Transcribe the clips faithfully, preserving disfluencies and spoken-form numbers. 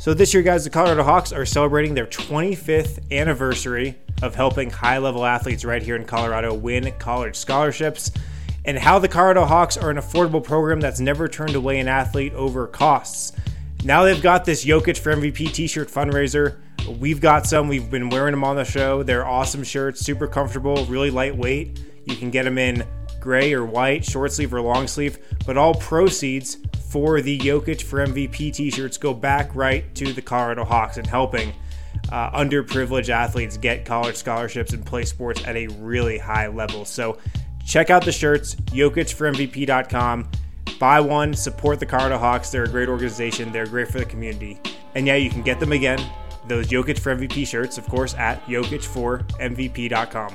So this year, guys, the Colorado Hawks are celebrating their twenty-fifth anniversary of helping high-level athletes right here in Colorado win college scholarships, and how the Colorado Hawks are an affordable program that's never turned away an athlete over costs. Now they've got this Jokic for M V P t-shirt fundraiser. We've got some. We've been wearing them on the show. They're awesome shirts, super comfortable, really lightweight. You can get them in gray or white, short sleeve or long sleeve, but all proceeds for the Jokic for M V P t-shirts go back right to the Colorado Hawks and helping uh, underprivileged athletes get college scholarships and play sports at a really high level. So check out the shirts, Jokic for M V P dot com. Buy one, support the Colorado Hawks. They're a great organization. They're great for the community. And yeah, you can get them again, those Jokic for M V P shirts, of course, at Jokic for M V P dot com.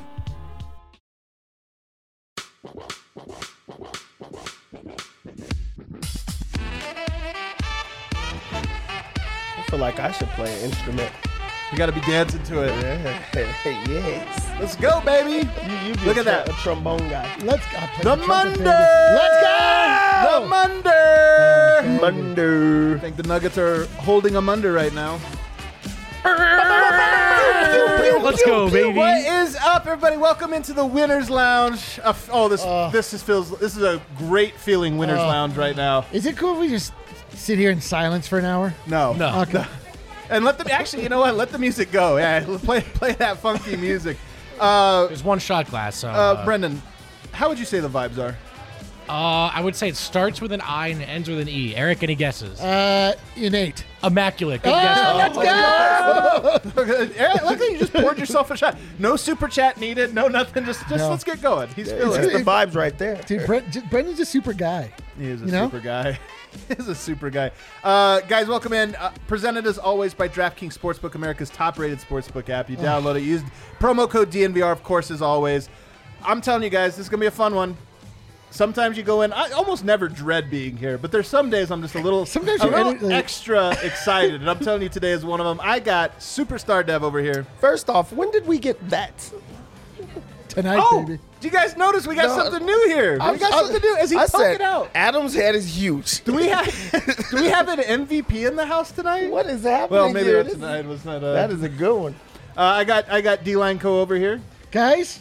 I feel like I should play an instrument. You got to be dancing to it. Yes. Let's go, baby. You, you be Look a at that. A trombone guy. Let's go. I'll play The trumpet, Munder. baby. Let's go. The Munder. Oh, Munder. I think the Nuggets are holding a Munder right now. Let's go, baby. What is up, everybody? Welcome into the Winners Lounge. Uh, oh, this Uh, this is feels this is a great feeling Winners Uh, Lounge right now. Is it cool if we just sit here in silence for an hour? No, No. Okay. and let them actually. You know what? Let the music go. Yeah, play play that funky music. Uh, There's one shot glass. So, uh, uh, Brendan, how would you say the vibes are? uh, I would say it starts with an I and ends with an E. Eric, any guesses? Uh, innate. Immaculate. Good Oh, guess. let's go. Eric, look at you just poured yourself a shot. No super chat needed. No nothing. Just just No. let's get going. He's It's feeling just it. the vibes right there. Dude, Brent, j- Brendan's a super guy. He is a You know? super guy. He's a super guy. Uh, guys, welcome in. Uh, presented as always by DraftKings Sportsbook, America's top-rated sportsbook app. You download it. Use promo code D N V R, of course, as always. I'm telling you guys, this is going to be a fun one. Sometimes you go in. I almost never dread being here, but there's some days I'm just a little, Sometimes a you're little edit- like- extra excited, and I'm telling you today is one of them. I got Superstar Dev over here. First off, when did we get that? Tonight, Oh, baby. do you guys notice we got No, something new here? I- we got I- something new. As he I poke said, it out. Adam's head is huge. Do we have do we have an M V P in the house tonight? What is happening Well, maybe here? not This- tonight. Was not. Uh, That is a good one. Uh, I got I got D-Line Co over here. Guys,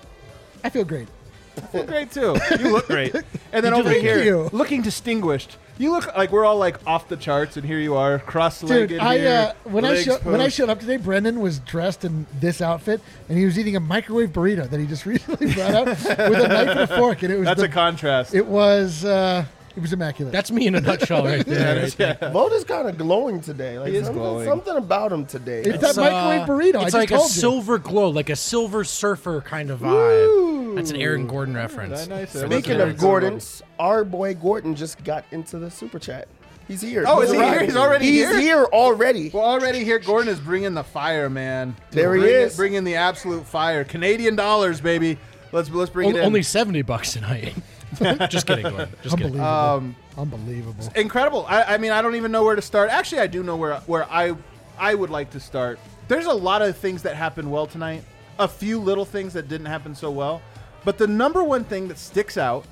I feel great. I feel great too. You look great. And then You over do. here, Thank you. looking distinguished. You look like we're all like off the charts, and here you are, cross-legged. Dude, I here, uh, when I legs show, when I posed. showed up today, Brendan was dressed in this outfit, and he was eating a microwave burrito that he just recently brought out with a knife and a fork, and it was That's the, a contrast. it was uh, it was immaculate. That's me in a nutshell right there. right there. yeah. Vote is kind of glowing today. Like He is something, glowing. something about him today. It's It's, that microwave burrito. I It's just like a told you. silver glow, like a silver surfer kind of vibe. That's an Aaron Gordon reference. Very nice. So Speaking that's of very- Gordons, our boy Gordon just got into the super chat. He's here. Oh, is he arrived. here? He's already He's here? here already. Well, already here, Gordon is bringing the fire, man. There he Bring it- is. bringing the absolute fire. Canadian dollars, baby. Let's let's bring On- it in. Only seventy bucks tonight. Just kidding, Glenn. Just kidding. Unbelievable. Um, Unbelievable. incredible. I, I mean, I don't even know where to start. Actually, I do know where where I I would like to start. There's a lot of things that happened well tonight. A few little things that didn't happen so well. But the number one thing that sticks out,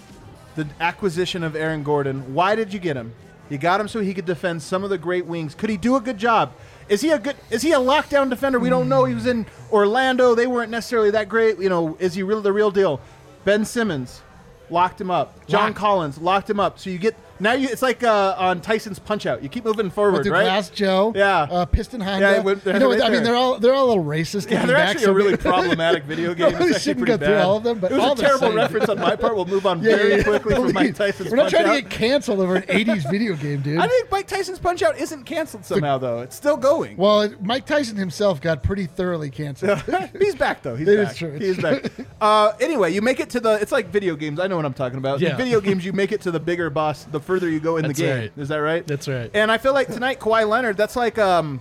the acquisition of Aaron Gordon. Why did you get him? You got him so he could defend some of the great wings. Could he do a good job? Is he a good? Is he a lockdown defender? We don't know. He was in Orlando. They weren't necessarily that great. You know, is he real the real deal? Ben Simmons locked him up. John Locked. Collins locked him up. So you get now you. It's like uh, on Tyson's Punch Out. You keep moving forward, Went through right? Glass Joe, Yeah. uh, Piston Honda. Yeah, it went- you know what? right I mean, there. they're all they're all a little racist. Yeah, looking they're back, actually so a really we- problematic video game. Probably It's actually shouldn't pretty go through bad. all of them, but it was all a the terrible same. reference on my part. We'll move on Yeah, very yeah, yeah. quickly from Please. Mike Tyson's We're not Punch trying Out. to get canceled over an eighties video game, dude. I think Mike Tyson's Punch Out isn't canceled somehow, though. It's still going. Well, it- Mike Tyson himself got pretty thoroughly canceled. He's back, though. He's It is back. true. He is back. Uh, anyway, you make it to the. It's like video games. I know what I'm talking about. In Yeah. video games, you make it to the bigger boss the further you go in That's the game. right. Is that right? That's right. And I feel like tonight, Kawhi Leonard, that's like um,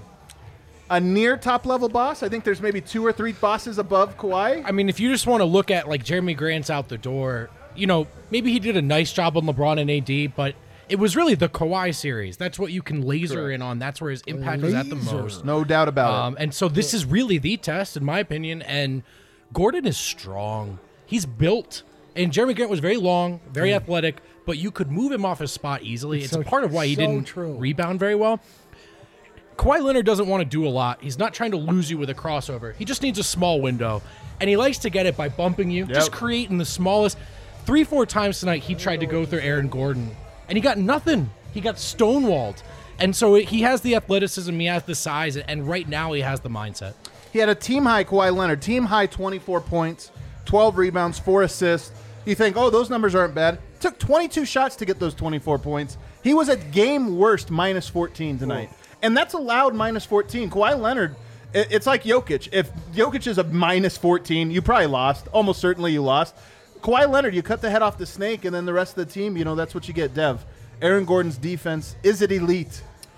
a near top level boss. I think there's maybe two or three bosses above Kawhi. I mean, if you just want to look at like Jeremy Grant's out the door, you know, maybe he did a nice job on LeBron and A D, but it was really the Kawhi series. That's what you can laser Correct. in on. That's where his impact was at the Laser. most. No doubt about Um, and so this is really the test, in my opinion. And Gordon is strong. He's built. And Jeremy Grant was very long, very athletic, but you could move him off his spot easily. It's, so- a part of why he so didn't true. rebound very well. Kawhi Leonard doesn't want to do a lot. He's not trying to lose you with a crossover. He just needs a small window. And he likes to get it by bumping you, Yep. just creating the smallest. Three, four times tonight, he tried to go through Aaron Gordon, and he got nothing. He got stonewalled. And so he has the athleticism, he has the size, and right now he has the mindset. He had a team-high Kawhi Leonard, team-high twenty-four points, twelve rebounds, four assists. You think, oh, those numbers aren't bad. Took twenty-two shots to get those twenty-four points. He was at game worst minus fourteen tonight. Ooh. And that's allowed minus fourteen. Kawhi Leonard, it, it's like Jokic. If Jokic is a minus fourteen, you probably lost. Almost certainly you lost. Kawhi Leonard, you cut the head off the snake, and then the rest of the team, you know, that's what you get, Dev. Aaron Gordon's defense, is it elite?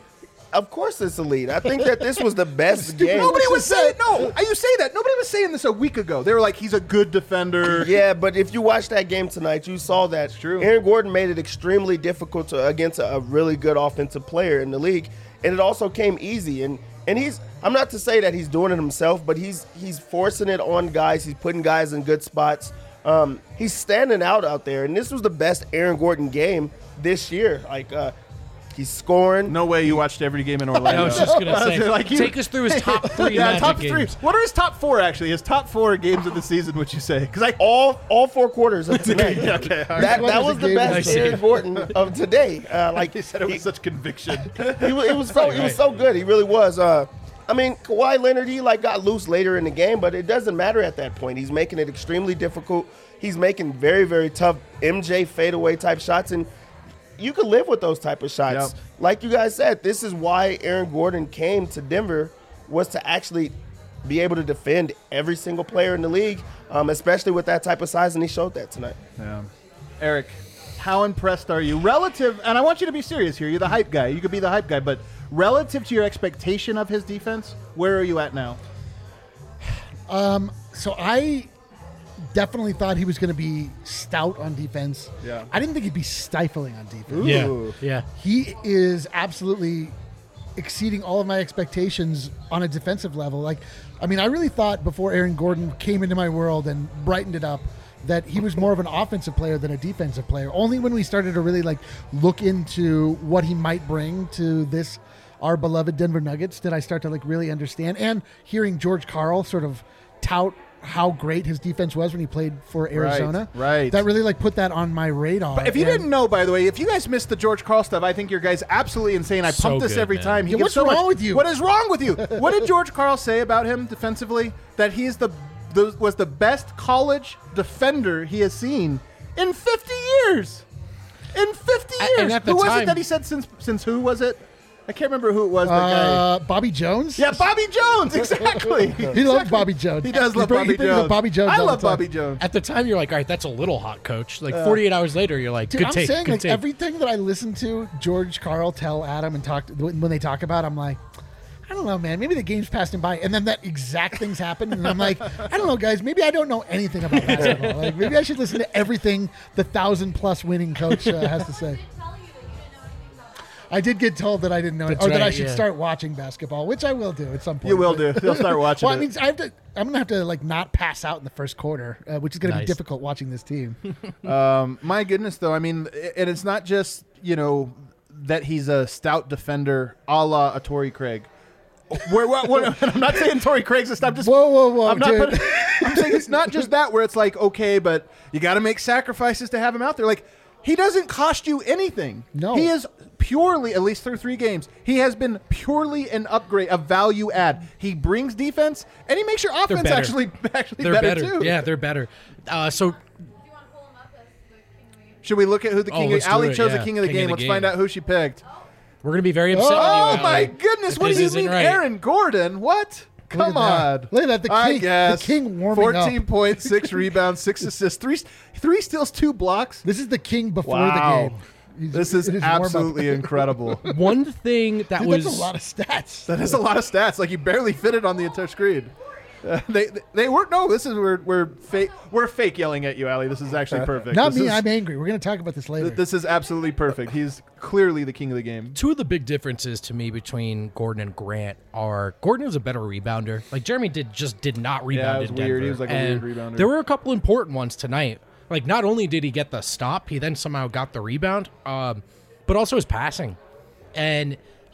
Of course it's elite. I think that this was the best game. Nobody was saying, no, you say that. Nobody was saying this a week ago. They were like, he's a good defender. Yeah, but if you watched that game tonight, you saw that. It's true. Aaron Gordon made it extremely difficult to, against a, a really good offensive player in the league, and it also came easy. And and he's, I'm not to say that he's doing it himself, but he's he's forcing it on guys. He's putting guys in good spots. Um, he's standing out out there, and this was the best Aaron Gordon game this year. Like, uh, he's scoring. No way you watched every game in Orlando. I was just going to say, like you, take us through his top three yeah, Magic top games. three. What are his top four, actually? His top four games of the season, would you say? Because I all all four quarters of tonight. okay, all right. That, What that was was the the game best of the Aaron season? Gordon of today. Uh, like he said it with he, such conviction. he, was- it was so it was so good. He really was. Uh, I mean, Kawhi Leonard, he like got loose later in the game, but it doesn't matter at that point. He's making it extremely difficult. He's making very, very tough M J fadeaway type shots, and you could live with those type of shots. Yep. Like you guys said, this is why Aaron Gordon came to Denver, was to actually be able to defend every single player in the league, um, especially with that type of size, and he showed that tonight. Yeah. Eric, how impressed are you relative? And I want you to be serious here. You're the hype guy. You could be the hype guy, but relative to your expectation of his defense, where are you at now? So I definitely thought he was going to be stout on defense. Yeah. I didn't think he'd be stifling on defense. Yeah, Ooh. yeah. He is absolutely exceeding all of my expectations on a defensive level. Like, I mean, I really thought before Aaron Gordon came into my world and brightened it up that he was more of an offensive player than a defensive player. Only when we started to really like look into what he might bring to this, our beloved Denver Nuggets, did I start to like really understand. And hearing George Karl sort of tout how great his defense was when he played for Arizona. right. That really like put that on my radar. But if you And- didn't know, by the way, if you guys missed the George Karl stuff, I think your guys absolutely insane. I So pump this good, every man. time. He Yeah, gives what's so wrong much- with you? What is wrong with you? What did George Karl say about him defensively? That he is the, the was the best college defender he has seen in fifty years. In fifty A- years. and at the who was time- it that he said since since who was it? I can't remember who it was. That guy. uh, Bobby Jones? Yeah, Bobby Jones. Exactly. He loves Bobby Jones. He does He love bring- he Bobby brings up Jones. Bobby Jones I all love the time. Bobby Jones. At the time, you're like, all right, that's a little hot, coach. Like forty-eight hours later, you're like, Dude, good I'm take, saying good like take. everything that I listen to George Karl tell Adam and talk when when they talk about, I'm like, I don't know, man. Maybe the game's passed him by, and then that exact thing's happened, and I'm like, I don't know, guys. Maybe I don't know anything about basketball. Like maybe I should listen to everything the thousand plus winning coach uh, has to say. I did get told that I didn't know, it, That's or that I right, should yeah. start watching basketball, which I will do at some point. You will but- do. You'll start watching Well, I it. mean, I have to. I'm gonna have to like not pass out in the first quarter, uh, which is gonna be Nice. difficult watching this team. Um, my goodness, though. I mean, and it's not just, you know, that he's a stout defender a la a Torrey Craig. Where, where, where- I'm not saying Torrey Craig's a stout. Just Whoa, whoa, whoa, I'm not. dude. Putting, I'm saying it's not just that where it's like, okay, but you got to make sacrifices to have him out there. Like, he doesn't cost you anything. No. He is purely, at least through three games, he has been purely an upgrade, a value add. He brings defense, and he makes your They're offense better. actually actually They're better, better. too. Yeah, they're better. Uh, so Do you want to pull him up as the king of the Should we look at who the Oh, king? let's of do Ali it, chose yeah. the king of the King of game. the Let's game. find out who she picked. we're gonna be very upset. with Oh you, my Allie, goodness! if What do this you isn't mean, right. Aaron Gordon? What? Come Look at that. on! Look at that, the I king- guess the king warming up. Fourteen points, six rebounds, six assists, three three steals, two blocks. This is the king before Wow. the game. He's- This is in his warm-up. absolutely incredible. One thing that Dude, was that's a lot of stats. That is a lot of stats. Like, you barely fit it on the entire screen. Uh, they they weren't. No, this is we're we're fake. We're fake yelling at you, Ali. This is actually perfect. Not This me. is- I'm angry. We're going to talk about this later. This is absolutely perfect. He's clearly the king of the game. two of the big differences to me between Gordon and Grant are Gordon is a better rebounder. Like Jeremy did just did not rebound it was in weird. Denver. He was like a And weird rebounder. There were a couple important ones tonight. Like not only did he get the stop, he then somehow got the rebound, um, but also his passing. And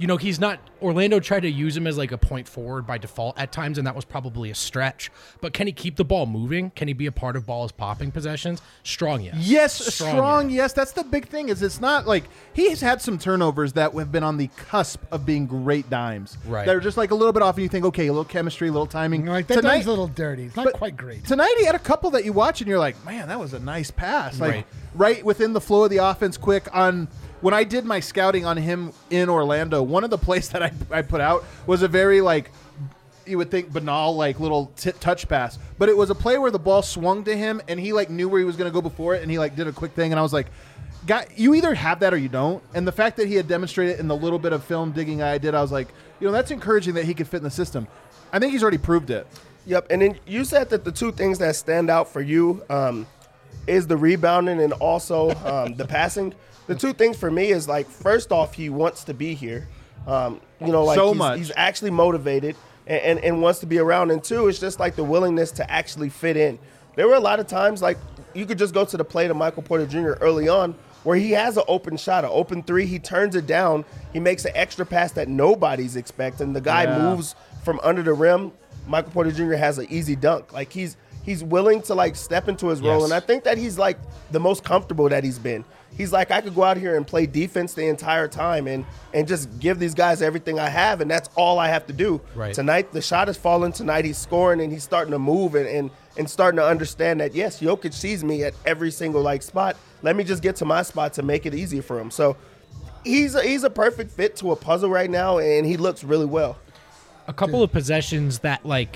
you know, he's not. Orlando tried to use him as like a point forward by default at times, and that was probably a stretch. But can he keep the ball moving? Can he be a part of balls popping possessions? Strong, yes. Yes, Strong, strong, yes. yes. That's the big thing. Is it's not like he's had some turnovers that have been on the cusp of being great dimes. Right. They're just like a little bit off, and you think, okay, a little chemistry, a little timing. You know, like that Tonight- dime's a little dirty. It's not but quite great. Tonight he had a couple that you watch and you're like, man, that was a nice pass. Like Right. right within the flow of the offense, quick on. When I did my scouting on him in Orlando, one of the plays that I, I put out was a very like you would think banal like little t- touch pass, but it was a play where the ball swung to him and he like knew where he was going to go before it and he like did a quick thing and I was like, "Guy, you either have that or you don't." And the fact that he had demonstrated in the little bit of film digging I did, I was like, you know, that's encouraging that he could fit in the system. I think he's already proved it. Yep, and then you said that the two things that stand out for you um, is the rebounding and also um, the passing. The two things for me is like, first off, he wants to be here. Um, you know, like So he's, much. he's actually motivated and, and, and wants to be around. And two, it's just like the willingness to actually fit in. There were a lot of times like you could just go to the plate of Michael Porter Junior early on where he has an open shot, an open three. He turns it down. He makes an extra pass that nobody's expecting. The guy Yeah. moves from under the rim. Michael Porter Junior has an easy dunk. Like he's he's willing to like step into his role. Yes. And I think that he's like the most comfortable that he's been. He's like, I could go out here and play defense the entire time and and just give these guys everything I have, and that's all I have to do. Right. Tonight, the shot is falling. Tonight, he's scoring, and he's starting to move and, and, and starting to understand that, yes, Jokic sees me at every single like spot. Let me just get to my spot to make it easier for him. So he's a, he's a perfect fit to a puzzle right now, and he looks really well. A couple of possessions that like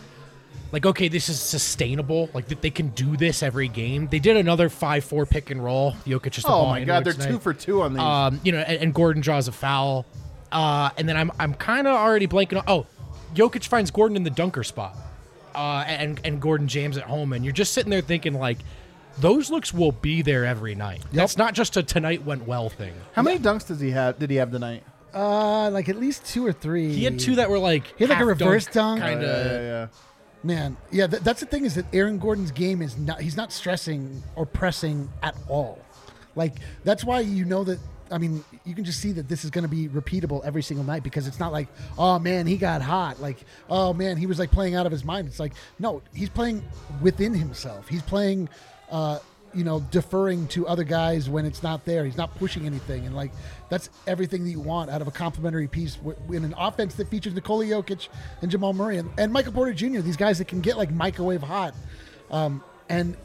like okay, this is sustainable, like that they can do this every game. They did another five four pick and roll. Jokic just the Oh ball my God, they're inwards two tonight. for two on these. Um, you know, and, and Gordon draws a foul. Uh, and then I'm I'm kind of already blanking on oh, Jokic finds Gordon in the dunker spot. Uh, and and Gordon jams at home, and you're just sitting there thinking like those looks will be there every night. That's not just a tonight went well thing. How many dunks does he have? Did he have tonight? Uh, like at least two or three. He had two that were like He had like a reverse dunk. kind Yeah, of. yeah, yeah. Man, yeah, th- that's the thing is that Aaron Gordon's game is not, he's not stressing or pressing at all. Like, that's why you know that, I mean, you can just see that this is going to be repeatable every single night because it's not like, oh man, he got hot. Like, oh man, he was like playing out of his mind. It's like, no, he's playing within himself. He's playing, uh, you know, deferring to other guys when it's not there. He's not pushing anything. And like, that's everything that you want out of a complementary piece w- in an offense that features Nikola Jokic and Jamal Murray and, and Michael Porter Junior These guys that can get like microwave hot. Um, and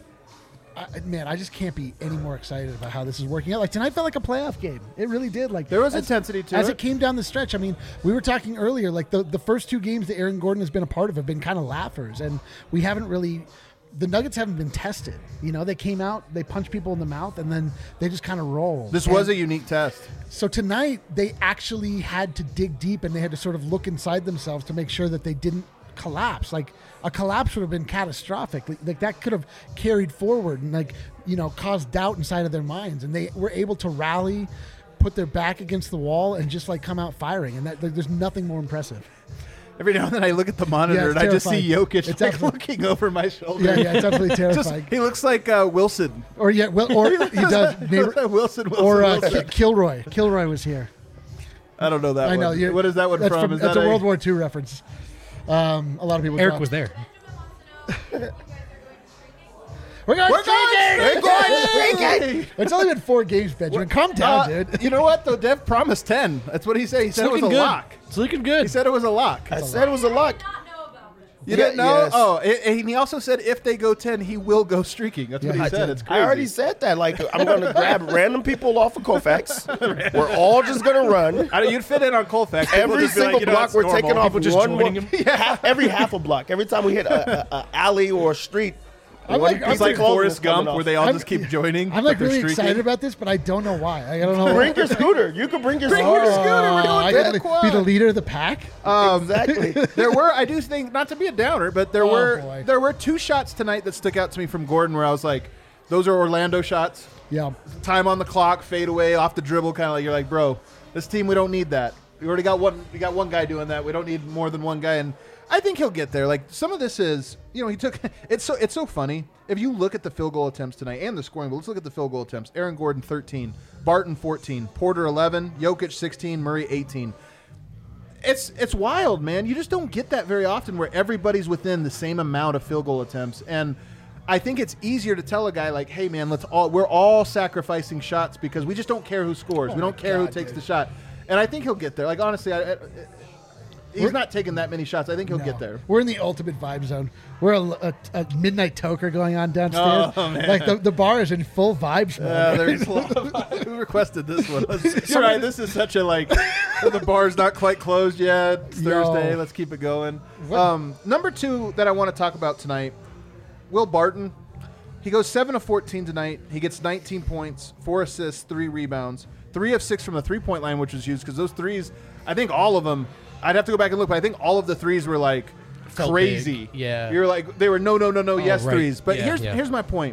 I, man, I just can't be any more excited about how this is working out. Like tonight felt like a playoff game. It really did. Like There was as- intensity to as it. it came down the stretch. I mean, we were talking earlier, like the, the first two games that Aaron Gordon has been a part of have been kind of laughers, and we haven't really. The Nuggets haven't been tested. You know, they came out, they punched people in the mouth, and then they just kind of rolled. This And was a unique test. so tonight they actually had to dig deep, and they had to sort of look inside themselves to make sure that they didn't collapse. Like a collapse would have been catastrophic. Like, like that could have carried forward and like you know caused doubt inside of their minds, and they were able to rally, put their back against the wall, and just like come out firing. And that like, there's nothing more impressive. Every now and then I look at the monitor Yeah, and it's I just see terrifying. Jokic It's like, absolute- looking over my shoulder. Yeah, yeah, it's absolutely Just, terrifying. he looks like uh, Wilson. Or yeah, well, or he does. He Neighbor, looks like Wilson, Wilson, or uh, Wilson. Ki- Kilroy. Kilroy was here. I don't know that I know. one. you're- What is that one that's from? Is that's that a World War Two reference. Um, a lot of people. Eric dropped- was there. We're going We're streaking! going streaking! It's only been four games, Benjamin. Calm down, Uh, dude. You know what? Though Dev promised ten. That's what he said. He It's said it was looking a good. lock. It's looking He good. said it was a lock. I said it was a lock. Not know about this. You Yeah, didn't know? yes. Oh, and and he also said if they go ten, he will go streaking. That's what Yeah, he I said. did. It's crazy. I already said that. Like, I'm going to grab random people off of Colfax. We're all just going to run. I, you'd fit in on Colfax. People Every just be like, single you know, block it's we're normal. taking off People just one joining more, him. half, every half a block. Every time we hit a, a, a alley or a street, I'm one like- piece I'm It's like of clothing Forrest is coming Gump, off. where they all I'm- just keep joining. I'm like but they're really streaking. excited about this, but I don't know why. I don't know. Bring your scooter. You can bring your Bring scooter. your scooter. We're doing I that gotta quad. be the leader of the pack. Um, Exactly. there were, I do think, not to be a downer, but there Oh, were boy. there were two shots tonight that stuck out to me from Gordon where I was like, those are Orlando shots. Yeah. Time on the clock, fade away, off the dribble, kind of like you're like, bro, this team we don't need that. We already got one. We got one guy doing that. We don't need more than one guy. And I think he'll get there. Like some of this is, you know, he took. It's so it's so funny if you look at the field goal attempts tonight and the scoring. But let's look at the field goal attempts. Aaron Gordon thirteen, Barton fourteen, Porter eleven, Jokic sixteen, Murray eighteen. it's it's wild, man. You just don't get that very often where everybody's within the same amount of field goal attempts. And I think it's easier to tell a guy like, hey, man, let's all we're all sacrificing shots because we just don't care who scores. Oh we don't care God, who takes dude. the shot. And I think he'll get there. Like, honestly, I, I, he's We're- not taking that many shots. I think he'll No. get there. We're in the ultimate vibe zone. We're a, a, a midnight toker going on downstairs. Oh, man. Like the, the bar is in full vibes mode. Uh, there's a lot of, who requested this one? You're right. This is such a like. The bar's not quite closed yet. It's Yo. Thursday. Let's keep it going. What- Um, number two that I want to talk about tonight, Will Barton. He goes seven of fourteen tonight. He gets nineteen points, four assists, three rebounds, three of six from the three-point line, which was huge because those threes, I think all of them. I'd have to go back and look, but I think all of the threes were like Felt crazy. big. Yeah. You're like they were no, no, no, no, yes right. threes. But Yeah, here's yeah. here's my point.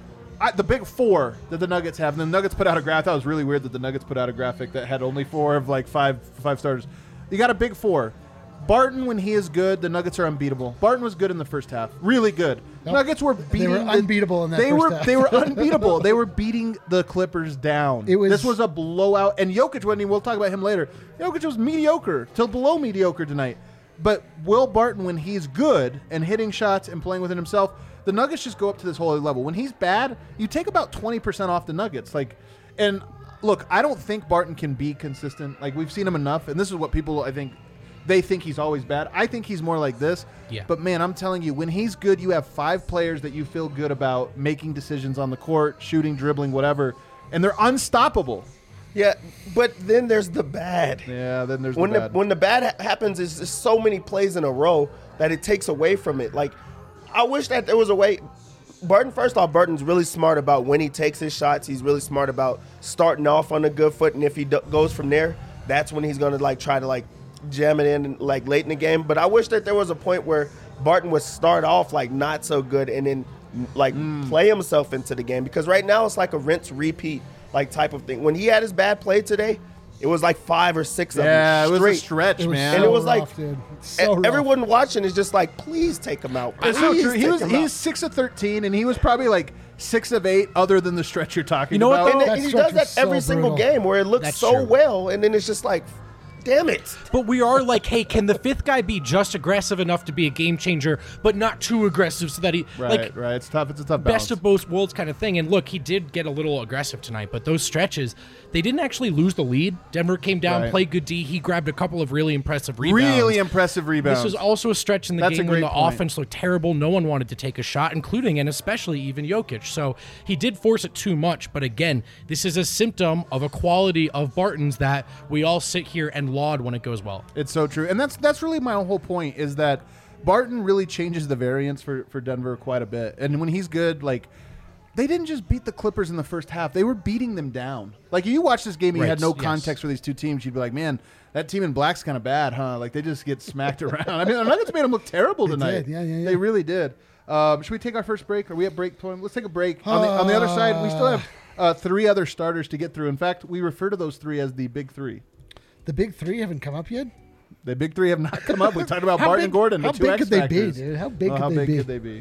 I, the big four that the Nuggets have, and the Nuggets put out a graphic. That was really weird that the Nuggets put out a graphic that had only four of like five five starters. You got a big four. Barton, when he is good, the Nuggets are unbeatable. Barton was good in the first half, really good. Nope. Nuggets were They beating. were the- unbeatable in that They first were half. they were unbeatable. They were beating the Clippers down. It was- this was a blowout, and Jokic wasn't. even- We'll talk about him later. Jokic was mediocre till below mediocre tonight. But Will Barton, when he's good and hitting shots and playing within himself, the Nuggets just go up to this whole other level. When he's bad, you take about twenty percent off the Nuggets. Like, and look, I don't think Barton can be consistent. Like, we've seen him enough, and this is what people, I think, they think he's always bad. I think he's more like this. Yeah. But, man, I'm telling you, when he's good, you have five players that you feel good about making decisions on the court, shooting, dribbling, whatever, and they're unstoppable. Yeah, but then there's the bad. Yeah, then there's when the the, bad. when the bad ha- happens, is just so many plays in a row that it takes away from it. Like, I wish that there was a way. Barton, first off, Barton's really smart about when he takes his shots. He's really smart about starting off on a good foot, and if he do- goes from there, that's when he's gonna like try to like jam it in like late in the game. But I wish that there was a point where Barton would start off like not so good and then like Mm. play himself into the game, because right now it's like a rinse repeat like type of thing. When he had his bad play today, it was like five or six of yeah, them it was straight. a stretch, It was man. And so it was like- rough, dude. It's so E- rough. Everyone watching is just like, please take him out. It's so Please true. He take was him he's out. six of thirteen, and he was probably like six of eight, other than the stretch you're talking You know what, about. though? And, That then he stretch does that was so every single brutal. game where it looks That's so true. well, and then it's just like, damn it. But we are like, hey, can the fifth guy be just aggressive enough to be a game changer, but not too aggressive so that he Right, like right. It's tough. It's a tough balance. best of both worlds kind of thing. And look, he did get a little aggressive tonight, but those stretches, they didn't actually lose the lead. Denver came down, Right. played good D. He grabbed a couple of really impressive rebounds. Really impressive rebounds. This was also a stretch in the That's a game when great the point. offense looked terrible. No one wanted to take a shot, including and especially even Jokic. So he did force it too much. But again, this is a symptom of a quality of Barton's that we all sit here and laud when it goes well. It's so true, and that's that's really my whole point is that Barton really changes the variance for, for Denver quite a bit. And when he's good, like they didn't just beat the Clippers in the first half; they were beating them down. Like you watch this game, and you Right, had no yes. context for these two teams. You'd be like, "Man, that team in black's kind of bad, huh?" Like they just get smacked around. I mean, the Nuggets made them look terrible They tonight. did, yeah, yeah, yeah. They really did. Um, should we take our first break? Are we at break point? Let's take a break. On the, on the other side, we still have uh, three other starters to get through. In fact, we refer to those three as the big three. The big three haven't come up yet. The big three have not come up. We talked about How Barton big- and Gordon. how the two big X could they be, factors. dude? How big Oh, could how they big be? could they be?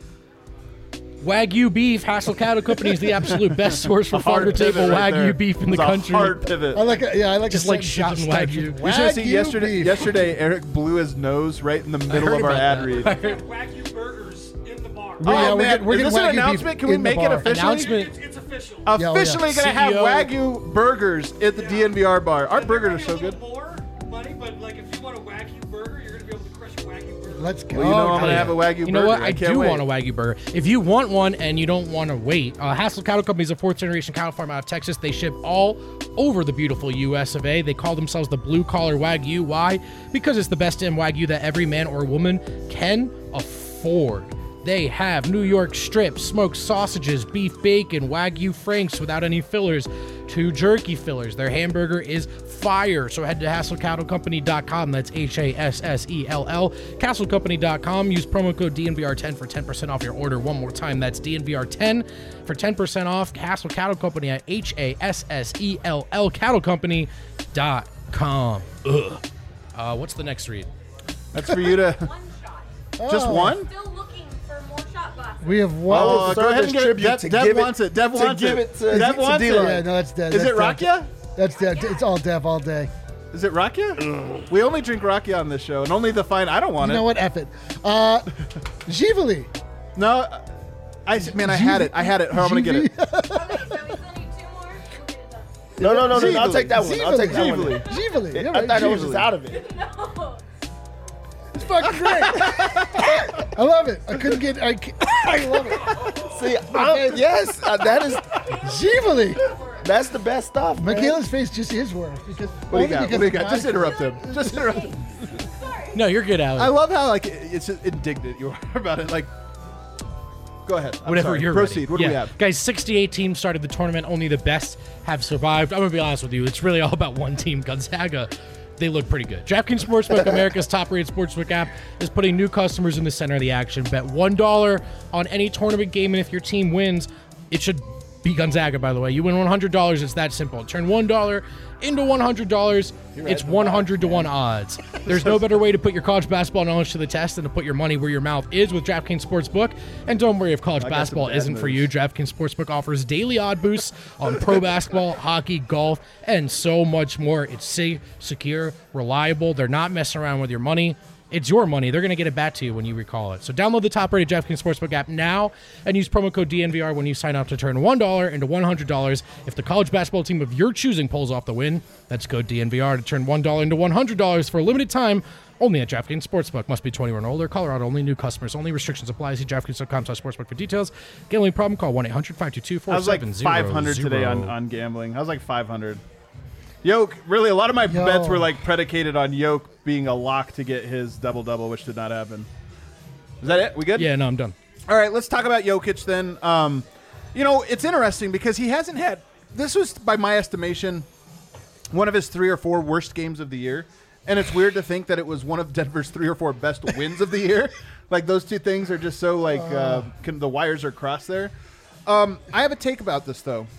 Wagyu beef, Hassel Cattle Company is the absolute best source for farmer Hard pivot table right there. Wagyu beef in It the was a country. hard pivot. I like, a, yeah, I like Just a like sentence shouting that just starts Wagyu. with You should have seen Wagyu yesterday. beef. Yesterday, Eric blew his nose right in the middle heard of our about ad that. read. Wagyu burgers in the bar. Yeah, oh we're man, getting- we're is getting this an Wagyu beef announcement? Can we in the make it bar. officially? Announcement. It's, it's official. Yeah, oh, yeah. Officially gonna have C E O. Wagyu burgers at the D N V R bar. Our burgers are so A little good. more money, but like if you want a Wagyu burger, you're gonna be able to crush a Wagyu burger. Let's go. Well, you know I'm hell gonna yeah. have a Wagyu burger. You know what? I, can't do wait. want a Wagyu burger. If you want one and you don't want to wait, uh, Hassel Cattle Company is a fourth generation cattle farm out of Texas. They ship all over the beautiful U S of A. They call themselves the blue collar Wagyu. Why? Because it's the best damn Wagyu that every man or woman can afford. They have New York strips, smoked sausages, beef bacon, Wagyu franks without any fillers, two jerky fillers. Their hamburger is fire. So head to hassel cattle company dot com. That's H A S S E L L. castle company dot com. Use promo code D N V R ten for ten percent off your order. One more time. That's D N V R ten for ten percent off. Hassel Cattle Company at H A S S E L L. cattle company dot com. Ugh. Uh, what's the next read? That's for you to. One shot. Just Oh. one? Still looking for more shot glasses. We have one. Oh, go ahead and give it. tribute Dev, to Dev give it- wants it. Dev to wants give it. it to- Dev to wants D-Line. it. yeah, no, that's dead. Is That's it dead. Rakia? That's dead. It's all Dev all day. Is it rakia? We only drink rakia on this show, and only the fine. I don't want You it. know what? F it. Uh, Givali. No, I s- man, I had it. I had it. How am I gonna get it? Okay, so we still need two more. We'll get it done. No, no, no, no, no. I'll Givali. take that one. I'll take that one. Givali. Givali. You're I right, thought I was Givali. just out of it. No. It's fucking great. I love it. I couldn't get. I, ca- I love it. See, I'm, yes, uh, that is Givali. that's the best stuff. man. Michaela's face just is worse because. What do you got? What do you got? Just interrupt him. Just interrupt him. No, you're good, Alex. I love how like it's just indignant you are about it. Like, go ahead. I'm Whatever sorry. you're Proceed. ready. What do Yeah. we have? Guys, sixty-eight teams started the tournament. Only the best have survived. I'm going to be honest with you. It's really all about one team, Gonzaga. They look pretty good. DraftKings Sportsbook, America's top-rated sportsbook app, is putting new customers in the center of the action. Bet one dollar on any tournament game, and if your team wins, it should be Gonzaga, by the way. You win one hundred dollars. It's that simple. Turn one dollar into one hundred dollars. It's one hundred to one odds. There's no better way to put your college basketball knowledge to the test than to put your money where your mouth is with DraftKings Sportsbook. And don't worry if college I got some basketball bad isn't for news. you. DraftKings Sportsbook offers daily odd boosts on pro basketball, hockey, golf, and so much more. It's safe, secure, reliable. They're not messing around with your money. It's your money. They're going to get it back to you when you recall it. So download the top-rated DraftKings Sportsbook app now and use promo code D N V R when you sign up to turn one dollar into one hundred dollars. If the college basketball team of your choosing pulls off the win, that's code D N V R to turn one dollar into one hundred dollars for a limited time only at DraftKings Sportsbook. Must be twenty-one or older. Colorado only. New customers only. Restrictions apply. See DraftKings dot com slash sportsbook for details. Gambling problem? Call one eight hundred five two two I four was like seven zero five hundred today on, on gambling. I was like five hundred. Yoke, really, a lot of my Yo. bets were like predicated on Yoke being a lock to get his double double, which did not happen. Is that it? We good? Yeah, no, I'm done. All right, let's talk about Jokic then. Um, you know, it's interesting because he hasn't had. This was, by my estimation, one of his three or four worst games of the year, and it's weird to think that it was one of Denver's three or four best wins of the year. Like those two things are just so like uh, can, the wires are crossed there. Um, I have a take about this though.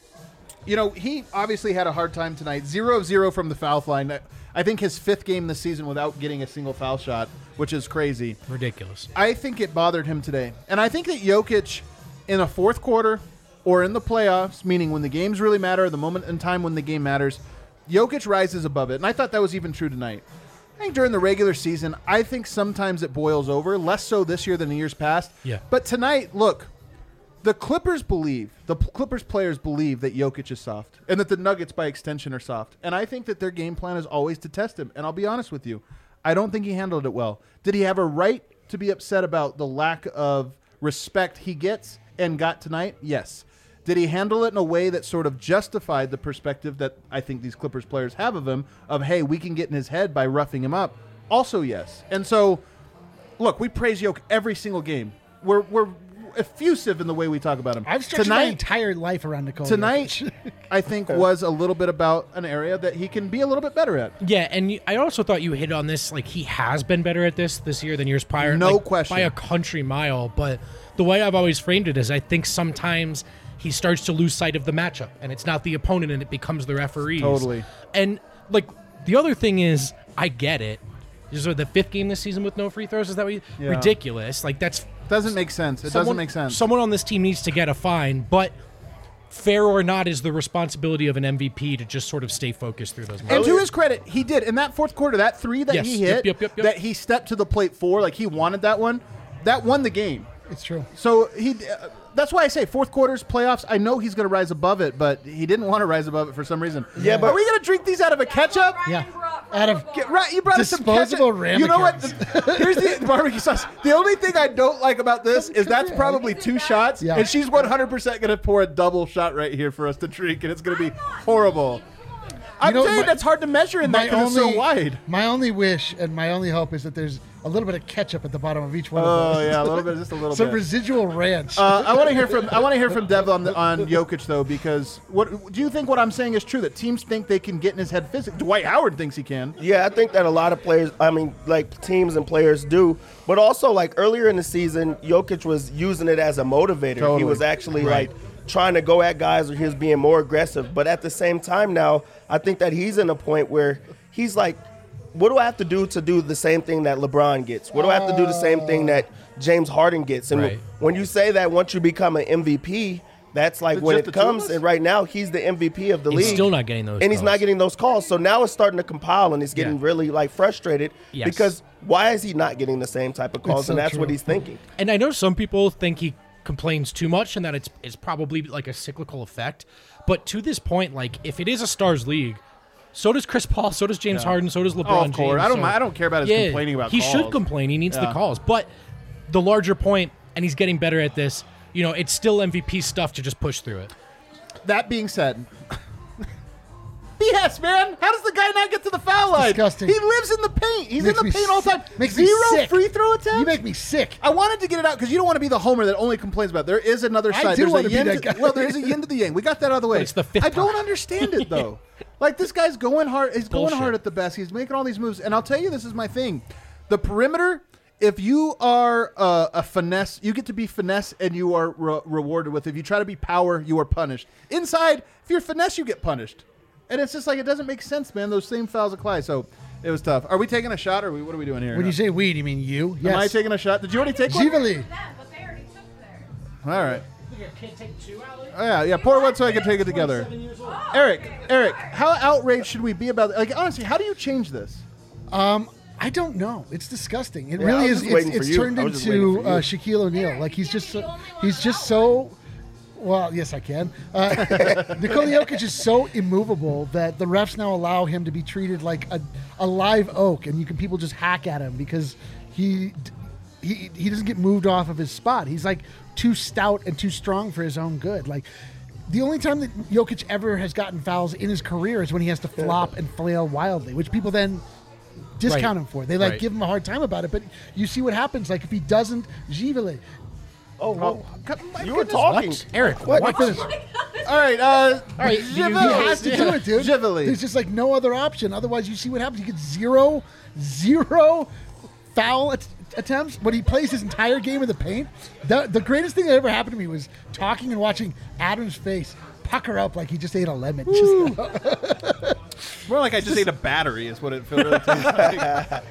You know, he obviously had a hard time tonight. Zero of zero from the foul line. I think his fifth game this season without getting a single foul shot, which is crazy. Ridiculous. I think it bothered him today. And I think that Jokic in a fourth quarter or in the playoffs, meaning when the games really matter, the moment in time when the game matters, Jokic rises above it. And I thought that was even true tonight. I think during the regular season, I think sometimes it boils over, less so this year than the years past. Yeah. But tonight, look, the Clippers believe, the Clippers players believe that Jokic is soft and that the Nuggets by extension are soft. And I think that their game plan is always to test him. And I'll be honest with you, I don't think he handled it well. Did he have a right to be upset about the lack of respect he gets and got tonight? Yes. Did he handle it in a way that sort of justified the perspective that I think these Clippers players have of him of, hey, we can get in his head by roughing him up? Also, yes. And so, look, we praise Jokic every single game. We're, we're effusive in the way we talk about him. I've stretched my entire life around Nikola Tonight, Jokic. I think, was a little bit about an area that he can be a little bit better at. Yeah, and you, I also thought you hit on this. Like, he has been better at this this year than years prior. No like, question. By a country mile. But the way I've always framed it is I think sometimes he starts to lose sight of the matchup, and it's not the opponent, and it becomes the referees. Totally. And, like, the other thing is, I get it. This is the fifth game this season with no free throws. Is that what you, Yeah. ridiculous? Like, that's Doesn't make sense. It someone- doesn't make sense. Someone on this team needs to get a fine, but fair or not is the responsibility of an M V P to just sort of stay focused through those And moments. to his credit, he did. In that fourth quarter, that three that Yes. he Yep, hit, yep, yep, yep. that he stepped to the plate for, like he wanted that one, that won the game. It's true. So he, uh, that's why I say fourth quarters, playoffs. I know he's going to rise above it, but he didn't want to rise above it for some reason. Yeah, but- are we going to drink these out of a ketchup? Yeah. Ryan brought Out of- football. Get right, you brought us some Disposable ketchup. You know what? ramekins. Here's the barbecue sauce. The only thing I don't like about this is that's probably two shots, Yeah. and she's one hundred percent going to pour a double shot right here for us to drink, and it's going to be horrible. I'm know, saying my- that's hard to measure in that because it's so wide. My only wish and my only hope is that there's a little bit of ketchup at the bottom of each one Oh of those. yeah, a little bit, just a little Some bit. residual ranch. Uh, I want to hear from I want to hear from Dev on the, on Jokic though, because what do you think? What I'm saying is true that teams think they can get in his head physically. Dwight Howard thinks he can. Yeah, I think that a lot of players, I mean, like teams and players do, but also like earlier in the season, Jokic was using it as a motivator. Totally. He was actually Right. like trying to go at guys, or he was being more aggressive. But at the same time now, I think that he's in a point where he's like, what do I have to do to do the same thing that LeBron gets? What do I have to do the same thing that James Harden gets? And Right. when you say that once you become an M V P, That's like It's when just it the two of comes, us? and right now he's the M V P of the He's league. still not getting those and he's calls. not getting those calls. So now it's starting to compile, and he's getting Yeah. really like frustrated Yes. because why is he not getting the same type of calls? so and that's true. what he's thinking. And I know some people think he complains too much and that it's it's probably like a cyclical effect. But to this point, like if it is a stars league, so does Chris Paul, so does James Yeah. Harden, so does LeBron Oh, of course. James. I don't so- mi- I don't care about his Yeah, complaining about he calls. should complain. He needs the Yeah. calls. But the larger point, and he's getting better at this, you know, it's still M V P stuff to just push through it. That being said, B S, man. How does the guy not get to the foul line? disgusting. He lives in the paint. He's Makes in the me paint all the time. sick. Makes me Zero sick. free throw attempts. You make me sick. I wanted to get it out because you don't want to be the homer that only complains about it. There is another I side. do There's wanna a be yin that to, guy. well, there is a yin to the yang. We got that out of the way. But it's the fifth I don't time. understand it though. Like this guy's going hard. He's going Bullshit. hard at the best. He's making all these moves, and I'll tell you, this is my thing. The perimeter. If you are uh, a finesse, you get to be finesse, and you are re- rewarded with. If you try to be power, you are punished. Inside, if you're finesse, you get punished. And it's just like it doesn't make sense, man. Those same fouls apply. So it was tough. Are we taking a shot, or are we, what are we doing here? When you say we, do you mean you? Am I Yes. taking a shot? Did you already take one? Givali. That, but they already took theirs. All right. Oh, yeah, yeah. Pour one so I can take it together. Eric, Eric, how outraged should we be about? Like, honestly, how do you change this? I don't know. It's disgusting. It Yeah, I really was is. just It's, waiting for it's you. turned I was just into waiting for uh, you. Shaquille O'Neal. Eric, Like he's you're just the so, only one he's just allowed. so. Well, yes, I can. Uh, Nikola Jokic is so immovable that the refs now allow him to be treated like a, a live oak, and you can people just hack at him because he he he doesn't get moved off of his spot. He's like too stout and too strong for his own good. Like the only time that Jokic ever has gotten fouls in his career is when he has to flop and flail wildly, which people then discount Right. him for. They like Right. give him a hard time about it, but you see what happens. Like if he doesn't, Givali. Oh, whoa. My You were goodness. talking. What? Eric, What? what? Finish. All right, uh, All right, do you- He Givali. has to do it, dude. Givali. There's just like no other option. Otherwise, you see what happens. He gets zero, zero foul at- attempts, but he plays his entire game in the paint. The, the greatest thing that ever happened to me was talking and watching Adam's face pucker up like he just ate a lemon. Just, More like I just ate a battery is what it feels really tastes like.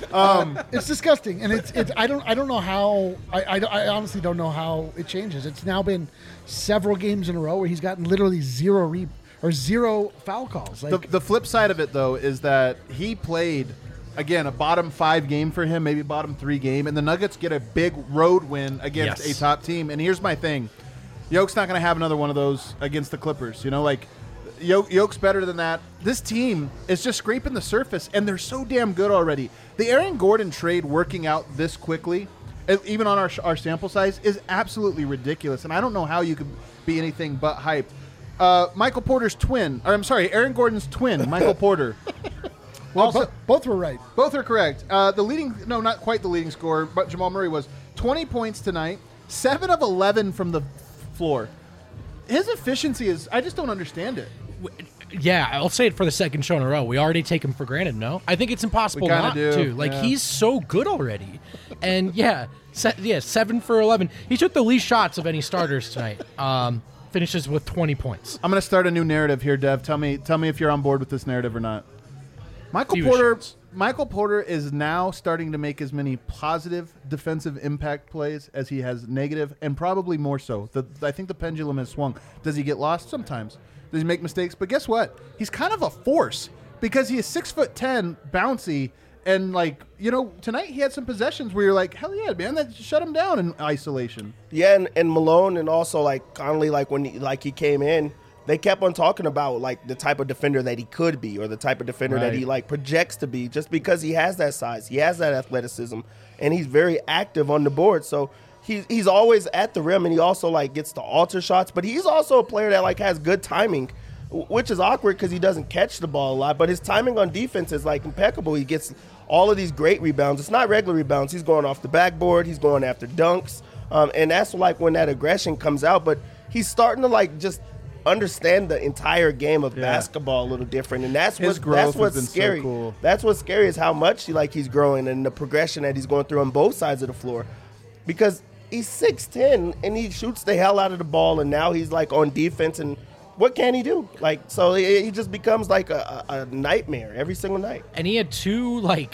it's disgusting, and it's it's. I don't I don't know how. I, I, I honestly don't know how it changes. It's now been several games in a row where he's gotten literally zero re or zero foul calls. The, Like the flip side of it, though, is that he played, again, a bottom five game for him, maybe bottom three game, and the Nuggets get a big road win against Yes. a top team. And here's my thing. Yoke's not going to have another one of those against the Clippers. You know, like, Yoke, Yoke's better than that. This team is just scraping the surface, and they're so damn good already. The Aaron Gordon trade working out this quickly, e- even on our, our sample size, is absolutely ridiculous. And I don't know how you could be anything but hyped. Uh, Michael Porter's twin, or I'm sorry, Aaron Gordon's twin, Michael Porter. well, also- bo- both were right. Both are correct. Uh, the leading, no, not quite the leading scorer, but Jamal Murray was twenty points tonight, seven of eleven from the floor. His efficiency is, I just don't understand it. Yeah, I'll say it for the second show in a row. We already take him for granted, no? I think it's impossible We kinda not do, to. Like, yeah. he's so good already. And, yeah, se- yeah, seven for eleven. He took the least shots of any starters tonight. Um, finishes with twenty points. I'm going to start a new narrative here, Dev. Tell me, tell me if you're on board with this narrative or not. Michael Few Porter, shots. Michael Porter is now starting to make as many positive defensive impact plays as he has negative, and probably more so. The, I think the pendulum has swung. Does he get lost? Sometimes. Does he make mistakes? But guess what? He's kind of a force because he is six foot ten, bouncy, and like you know, tonight he had some possessions where you're like, hell yeah, man, that shut him down in isolation. Yeah, and, and Malone and also like Conley, like when he, like he came in, they kept on talking about like the type of defender that he could be or the type of defender that Right. he like projects to be just because he has that size, he has that athleticism, and he's very active on the board. So he's he's always at the rim, and he also like gets to alter shots, but he's also a player that like has good timing, w- which is awkward because he doesn't catch the ball a lot, but his timing on defense is like impeccable. He gets all of these great rebounds. It's not regular rebounds. He's going off the backboard. He's going after dunks. Um, and that's like when that aggression comes out. But he's starting to like just understand the entire game of Yeah. basketball a little different. And that's His what growth that's has what's been so scary. cool. That's what's scary is how much he, like he's growing and the progression that he's going through on both sides of the floor. Because he's six ten and he shoots the hell out of the ball, and now he's like on defense, and what can he do? Like, so he he just becomes like a, a, a nightmare every single night. And he had two, like,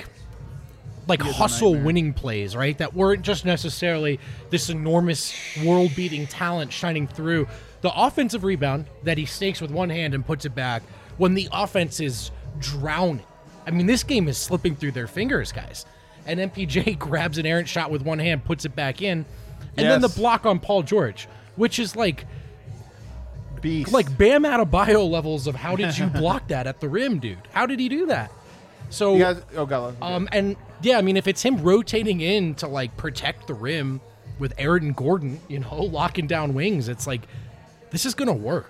like hustle winning plays, right? That weren't just necessarily this enormous world beating talent shining through, the offensive rebound that he stakes with one hand and puts it back when the offense is drowning. I mean, this game is slipping through their fingers, guys. And M P J grabs an errant shot with one hand, puts it back in, and Yes. then the block on Paul George, which is like Beast. like Bam Adebayo levels of how did you block that at the rim, dude? How did he do that? So, You guys, oh, God. um, and yeah, I mean, if it's him rotating in to like protect the rim with Aaron Gordon, you know, locking down wings, it's like this is gonna work.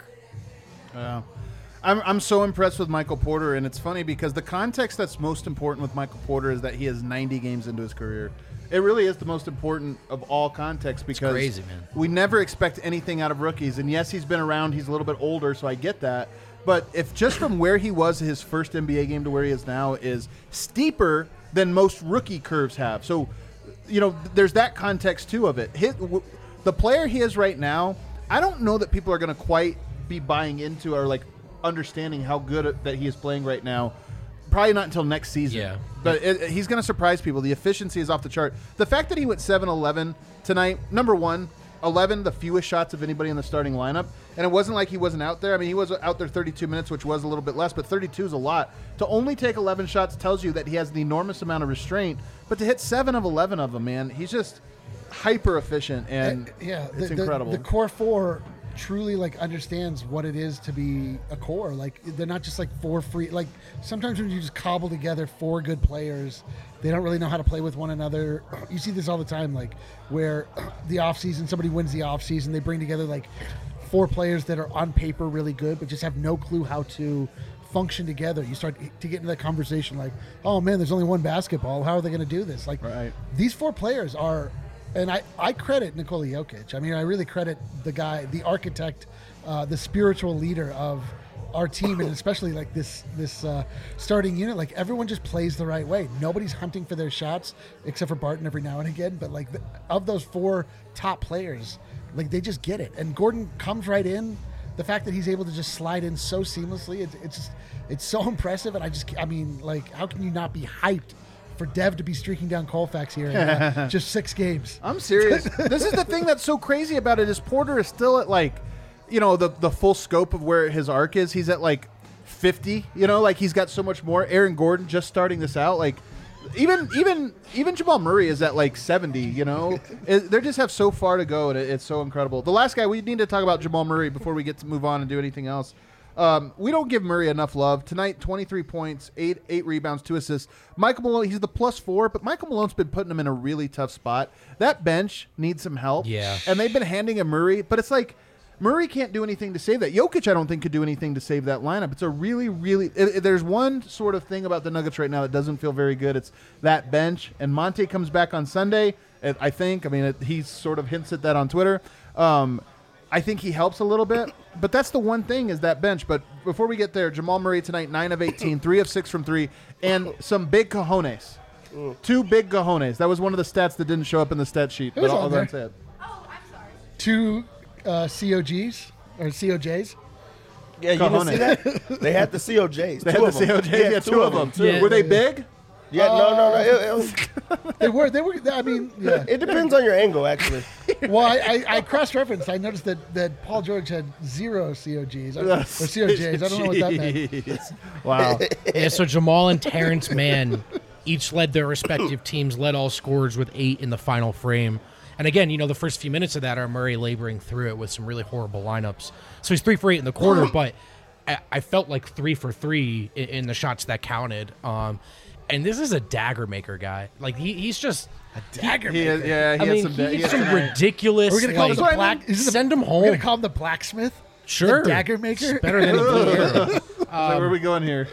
Yeah. I'm, I'm so impressed with Michael Porter, and it's funny because the context that's most important with Michael Porter is that he has ninety games into his career. It really is the most important of all contexts because crazy, man. we never expect anything out of rookies. And yes, he's been around. He's a little bit older, so I get that. But if just from where he was his first N B A game to where he is now is steeper than most rookie curves have. So, you know, there's that context too of it. His, w- the player he is right now, I don't know that people are going to quite be buying into or like understanding how good that he is playing right now. Probably not until next season. Yeah. But it, it- he's going to surprise people. The efficiency is off the chart. The fact that he went seven eleven tonight, number one, eleven, the fewest shots of anybody in the starting lineup. And it wasn't like he wasn't out there. I mean, he was out there thirty-two minutes, which was a little bit less, but thirty-two is a lot. To only take eleven shots tells you that he has an enormous amount of restraint. But to hit seven of eleven of them, man, he's just hyper efficient, and Uh, yeah, it's the, the- incredible. The core four truly like understands what it is to be a core. Like they're not just like four free. Like sometimes when you just cobble together four good players, they don't really know how to play with one another. You see this all the time, like where the off season somebody wins the off season, they bring together like four players that are on paper really good, but just have no clue how to function together. You start to get into that conversation like, oh man, there's only one basketball. How are they going to do this? Like Right. these four players are. And I, I credit Nikola Jokic. I mean, I really credit the guy, the architect, uh, the spiritual leader of our team, and especially like this this uh, starting unit. Like everyone just plays the right way. Nobody's hunting for their shots except for Barton every now and again. But like the, of those four top players, like they just get it. And Gordon comes right in. The fact that he's able to just slide in so seamlessly, it's it's just, it's so impressive. And I just, I mean, like, how can you not be hyped for Dev to be streaking down Colfax here in uh, just six games? I'm serious. This is the thing that's so crazy about it is Porter is still at like, you know, the the full scope of where his arc is. He's at like fifty, you know, like he's got so much more. Aaron Gordon just starting this out, like even even even Jamal Murray is at like seventy, you know. It, they just have so far to go, and it, it's so incredible. The last guy, we need to talk about Jamal Murray before we get to move on and do anything else. Um, we don't give Murray enough love. Tonight, twenty-three points, eight eight rebounds, two assists. Michael Malone, he's the plus four, but Michael Malone's been putting him in a really tough spot. That bench needs some help. Yeah. And they've been handing him Murray, but it's like Murray can't do anything to save that. Jokic, I don't think, could do anything to save that lineup. It's a really, really it, it- there's one sort of thing about the Nuggets right now that doesn't feel very good. It's that bench. And Monte comes back on Sunday, I I think. I mean, it, he sort of hints at that on Twitter. Um, I think he helps a little bit, but that's the one thing is that bench. But before we get there, Jamal Murray tonight, nine of eighteen, three of six from three, and some big cojones. Two big cojones. That was one of the stats that didn't show up in the stat sheet. It was but I'll, on I'll go and there. say it. Oh, I'm sorry. Two uh, C O Gs or C O Js. Yeah, you didn't see Cojones. that? They had the C O Js. They two had of the them. C O Js. Yeah, two of them. too. Yeah. Were they big? Yeah, no, no, no. It, it, was, They were. They were. I mean, yeah. it depends on your angle, actually. Well, I, I, I cross-referenced. I noticed that, that Paul George had zero C O Gs or, or C O Js. I don't know what that meant. Jeez. Wow. Yeah, so Jamal and Terrence Mann each led their respective teams, led all scorers with eight in the final frame. And again, you know, the first few minutes of that are Murray laboring through it with some really horrible lineups. So he's three for eight in the quarter, but I, I felt like three for three in, in the shots that counted. Um, and this is a dagger maker guy. Like he, he's just Dagger He maker. is, yeah, he I has mean, some. he he has has some some ridiculous. We're gonna call like, him the black. is it the- send him We're home. gonna call him the blacksmith. Sure, The dagger maker. It's better than a blue arrow. like, where are we going here?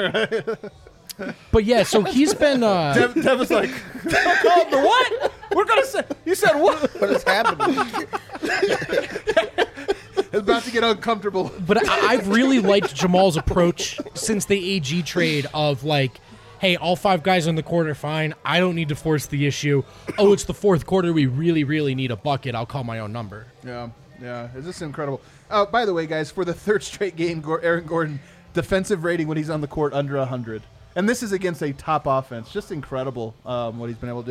But yeah, so he's been. Uh, Dev, Dev was like, "Don't call him the what? We're gonna say." You said what? What is happening? It's about to get uncomfortable. But I, I've really liked Jamal's approach since the A G trade of like, hey, all five guys on the court are fine. I don't need to force the issue. Oh, it's the fourth quarter. We really, really need a bucket. I'll call my own number. Yeah, yeah. Is this incredible? Uh, by the way, guys, for the third straight game, Gor- Aaron Gordon defensive rating when he's on the court under one hundred. And this is against a top offense. Just incredible um, what he's been able to do.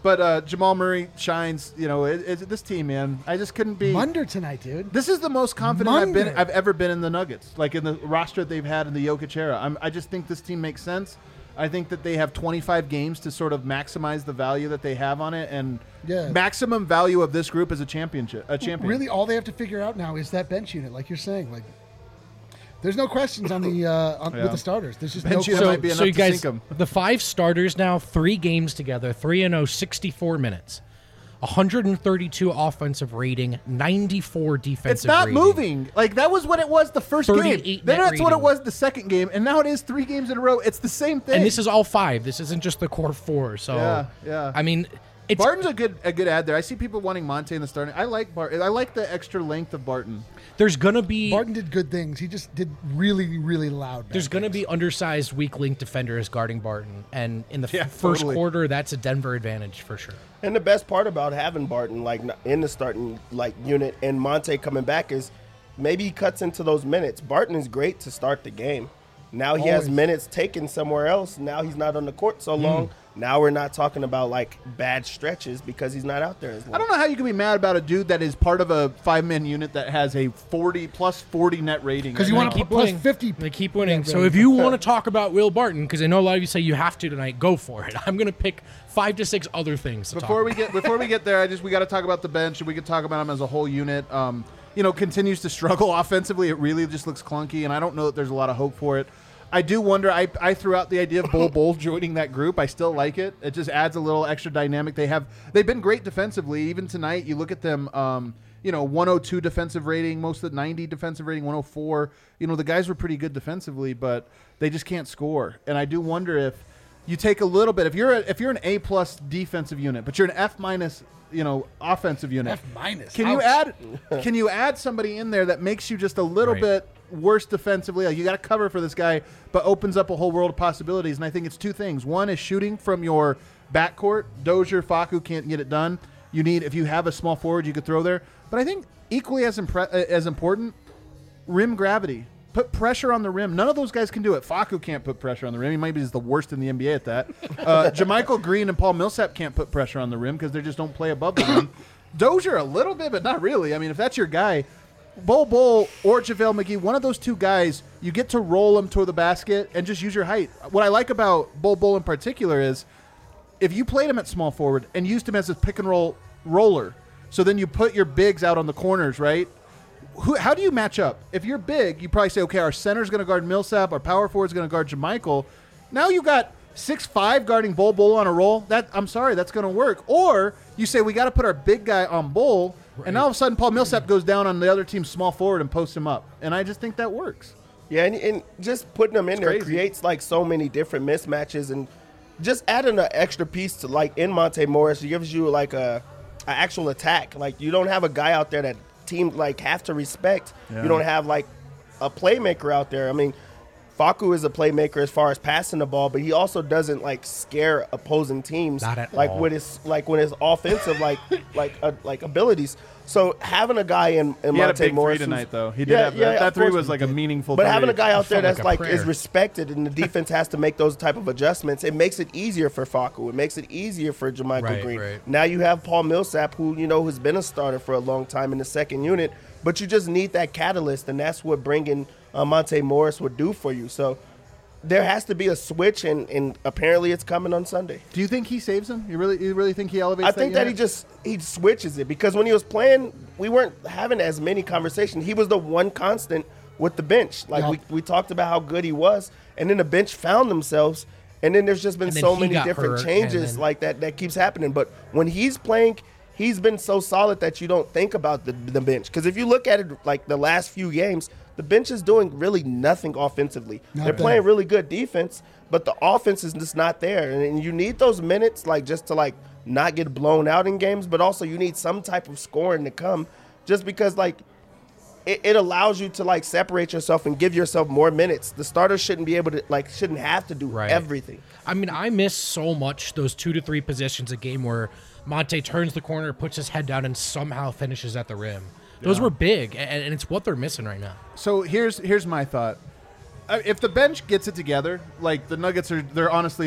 But uh, Jamal Murray shines. You know, it, it, this team, man. I just couldn't be. Munder tonight, dude. This is the most confident I've been. Munder. I've ever been in the Nuggets, like in the roster they've had in the Jokic era. I'm, I just think this team makes sense. I think that they have twenty-five games to sort of maximize the value that they have on it, and Yeah. maximum value of this group is a championship. A champion. Really, all they have to figure out now is that bench unit, like you're saying. Like, there's no questions on the uh, on, Yeah. with the starters. There's just Bench no unit questions. might be enough so you to guys, sink 'em. the five starters now, three games together, three and oh, sixty-four minutes, one hundred thirty-two offensive rating, ninety-four defensive It's not rating. moving. Like that was what it was the first game. thirty-eight Then net that's what it rating. was the second game, and now it is three games in a row. It's the same thing. And this is all five. This isn't just the core four. So, Yeah, yeah. I mean, it's Barton's a good a good ad there. I see people wanting Monte in the starting. I like Barton. I like the extra length of Barton. there's gonna be Barton did good things. He just did really, really loud. bad there's gonna things. be undersized, weak link defenders guarding Barton, and in the f- Yeah, first totally. quarter, that's a Denver advantage for sure. And the best part about having Barton like in the starting like unit and Monte coming back is maybe he cuts into those minutes. Barton is great to start the game. Now he has Always. minutes taken somewhere else. Now he's not on the court so long. Now we're not talking about like bad stretches because he's not out there as long. I don't know how you can be mad about a dude that is part of a five man unit that has a forty plus forty net rating. 'Cause you right wanna now. keep plus winning. fifty. They keep winning. Yeah, So right. if you want to talk about Will Barton, because I know a lot of you say you have to tonight, go for it. I'm gonna pick five to six other things to Before talk we get before we get there, I just we got to talk about the bench, and we could talk about him as a whole unit. Um, you know, continues to struggle offensively. It really just looks clunky, and I don't know that there's a lot of hope for it. I do wonder. I, I threw out the idea of Bol Bol joining that group. I still like it. It just adds a little extra dynamic. They have they've been great defensively. Even tonight, you look at them. Um, you know, one oh two defensive rating, most of the ninety defensive rating, one oh four. You know, the guys were pretty good defensively, but they just can't score. And I do wonder if you take a little bit. If you're a, if you're an A plus defensive unit, but you're an F minus, you know, offensive unit. F minus. Can you Ouch. add? Can you add somebody in there that makes you just a little Right. bit worse defensively? Like you got to cover for this guy, but opens up a whole world of possibilities. And I think it's two things. One is shooting from your backcourt. Dozier, Facu can't get it done. You need if you have a small forward you could throw there. But I think equally as impre- uh, as important, rim gravity. Put pressure on the rim. None of those guys can do it. Facu can't put pressure on the rim. He might be the worst in the N B A at that. Uh, JaMychal Green and Paul Millsap can't put pressure on the rim because they just don't play above the rim. Dozier a little bit, but not really. I mean, if that's your guy, Bol Bol or JaVale McGee, one of those two guys, you get to roll them toward the basket and just use your height. What I like about Bol Bol in particular is if you played him at small forward and used him as a pick and roll roller, so then you put your bigs out on the corners, right? Who, how do you match up? If you're big, you probably say, okay, our center's going to guard Millsap, our power forward's going to guard JaMychal. Now you got six five guarding Bol Bol on a roll. That I'm sorry, that's going to work. Or you say we got to put our big guy on Bol, and now all of a sudden Paul Millsap goes down on the other team's small forward and posts him up. And I just think that works. Yeah, and, and just putting them in there crazy. creates like so many different mismatches, and just adding an extra piece to like in Monte Morris, it gives you like a, a actual attack. Like you don't have a guy out there that team like have to respect. Yeah. You don't have like a playmaker out there. I mean, Facu is a playmaker as far as passing the ball, but he also doesn't like scare opposing teams Not at like all. with his like when his offensive like like uh, like abilities. So having a guy in, in He had a Monte big Morris three who's- tonight, though. He did Yeah, have yeah, that. That of three course was he like a did. meaningful. But three. having a guy out there felt like that's a like, prayer. is respected and the defense has to make those type of adjustments, it makes it easier for Facu. It makes it easier for JaMychal Right, Green. right. Now you have Paul Millsap, who you know has been a starter for a long time in the second unit, but you just need that catalyst, and that's what bringing uh, Monte Morris would do for you. So there has to be a switch, and, and apparently it's coming on Sunday. Do you think he saves him? You really, you really think he elevates? I think that, he unit? just he switches it because when he was playing, we weren't having as many conversations. He was the one constant with the bench. Like Yeah. we, we talked about how good he was, and then the bench found themselves. And then there's just been And then so he many got different hurt, changes and then- like that that keeps happening. But when he's playing, he's been so solid that you don't think about the, the bench. Because if you look at it like the last few games, the bench is doing really nothing offensively. Not They're bad. playing really good defense, but the offense is just not there. And, and you need those minutes like just to like not get blown out in games, but also you need some type of scoring to come just because like it, it allows you to like separate yourself and give yourself more minutes. The starters shouldn't be able to like shouldn't have to do Right. everything. I mean, I miss so much those two to three positions a game where Monte turns the corner, puts his head down, and somehow finishes at the rim. Those were big, and, and it's what they're missing right now. So here's here's my thought. Uh, If the bench gets it together, like the Nuggets are, they're honestly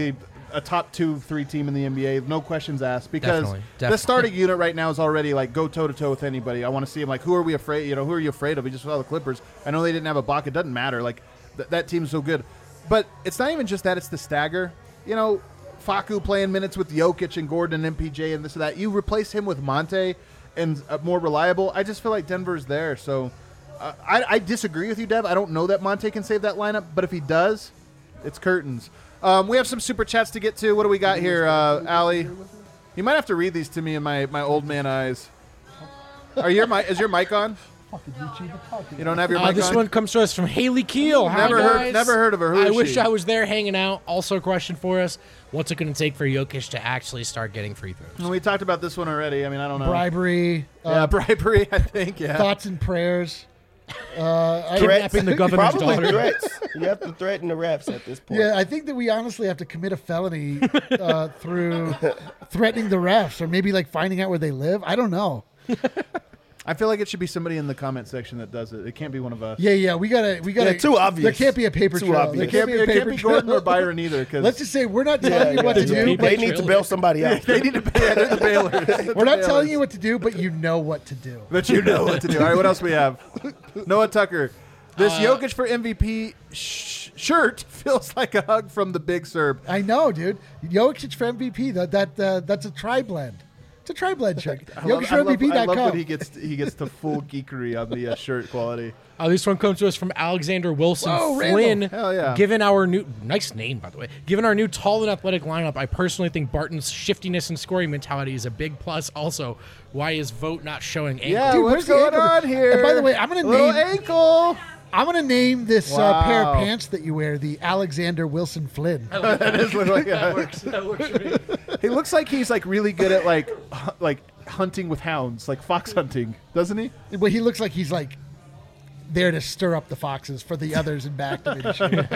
a top two, three team in the N B A. No questions asked because Definitely, the definitely. starting unit right now is already like go toe to toe with anybody. I want to see them like who are we afraid? You know, who are you afraid of? We just saw the Clippers. I know they didn't have a Ibaka. It doesn't matter. Like th- that team's so good, but it's not even just that. It's the stagger. You know, Facu playing minutes with Jokic and Gordon and M P J and this and that. You replace him with Monte and uh, more reliable. I just feel like Denver's there. So uh, I, I disagree with you, Dev. I don't know that Monte can save that lineup, but if he does, it's curtains. Um, we have some super chats to get to. What do we got here, uh, Allie? You might have to read these to me in my, my old man eyes. Are your mi- is your mic on? You don't have your Uh, mic this on? one comes to us from Haley Keel. Hi, Never heard- guys. never heard of her. Who I is wish she? I was there hanging out. Also, a question for us: what's it going to take for Jokic to actually start getting free throws? Well, we talked about this one already. I mean, I don't know. Bribery, Yeah, uh, bribery, I think, yeah. thoughts and prayers. Uh, I, Kidnapping the governor's Probably daughter. threats. You have to threaten the refs at this point. yeah, I think that we honestly have to commit a felony uh, through threatening the refs, or maybe like finding out where they live. I don't know. I feel like it should be somebody in the comment section that does it. It can't be one of us. Yeah, yeah, we gotta, we gotta. Yeah, too obvious. There can't be a paper Too trail. obvious. There It can't, can't be, be a it can't paper be trail. Gordon or Byron either. Cause Let's just say we're not telling you what to There's a do. paper They But need to trail. bail somebody out. they need to pay. They're the bailers. we're not telling you what to do, but you know what to do. But you know what to do. All right, what else we have? Noah Tucker. This Jokic for M V P sh- shirt feels like a hug from the big Serb. I know, dude. Jokic for M V P. That that uh, that's a tri blend. It's a tri blend shirt. I love, Jokic I for love, M V P I dot love com. when he gets he gets to full geekery on the uh, shirt quality. Uh, this one comes to us from Alexander Wilson Whoa, Flynn. Randall. Hell yeah. Given our new nice name, by the way, given our new tall and athletic lineup, I personally think Barton's shiftiness and scoring mentality is a big plus. Also, why is Vote not showing ankle? Yeah, Dude, what's where's the going ankle? on here? And by the way, I'm gonna Little name- ankle. I'm gonna name this uh, pair of Wow. pants that you wear the Alexander Wilson Flynn. That does look like a- works. That works for me. He looks like he's like really good at like hu- like hunting with hounds, like fox hunting, doesn't he? But he looks like he's like there to stir up the foxes for the others in back division.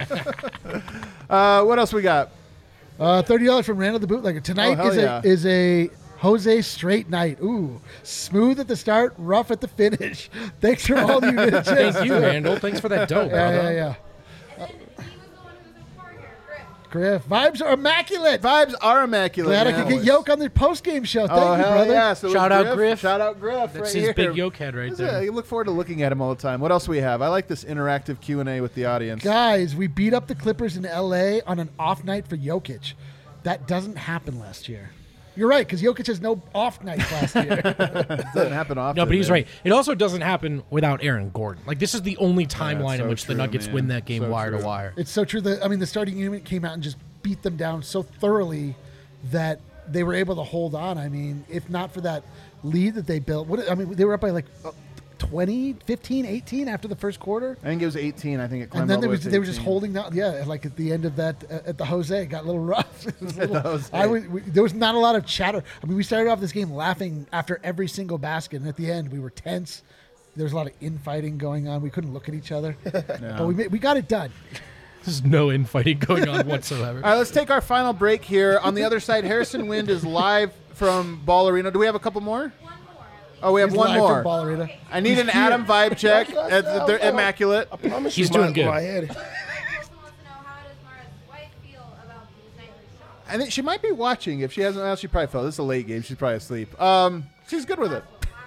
Uh, what else we got? uh, Thirty dollars from Randall the Bootlegger. Tonight Oh, hell is yeah. a is a Jose Straight night. Ooh, smooth at the start, rough at the finish. Thanks for all you did. Thank you, Randall. Thanks for that dope, Yeah, brother. yeah, yeah. He was the one who was in the car here, Griff. Griff, vibes are immaculate. Vibes are immaculate. Glad I man. could get Yoke on the post game show. Thank Oh you, hell brother. yeah! So it was Shout out Griff. Shout out Griff. That's right his here. big yoke head right Yeah, there. you look forward to looking at him all the time. What else we have? I like this interactive Q and A with the audience. Guys, we beat up the Clippers in L A on an off night for Jokic. That doesn't happen last year. You're right, because Jokic has no off nights last year. It doesn't happen often. No, but he's man. right. It also doesn't happen without Aaron Gordon. Like, this is the only timeline so in which true, the Nuggets man. win that game So wire true. to wire. It's so true that I mean the starting unit came out and just beat them down so thoroughly that they were able to hold on. I mean, if not for that lead that they built, what I mean, they were up by like twenty, fifteen, eighteen after the first quarter. I think it was eighteen. I think it climbed And then all they the were way to they were just eighteen. holding down. Yeah, like at the end of that uh, at the Jose, it got a little rough. It was a At the little- Jose. I was, we, there was not a lot of chatter. I mean, we started off this game laughing after every single basket, and at the end we were tense. There was a lot of infighting going on. We couldn't look at each other, but we made, we got it done. There's no infighting going on whatsoever. All right, let's take our final break here. On the other side, Harrison Wind is live from Ball Arena. Do we have a couple more? Oh, we have He's one live more. from Ball Arena. I need He's an here. Adam vibe check. That's- Uh, that's- They're that's- immaculate. I promise He's you, doing my, good. my head. Harrison wants to know how does Mara's wife feel about these nightly shows? I think she might be watching. If she hasn't, well, she probably fell. This is a late game. She's probably asleep. Um, she's good with it.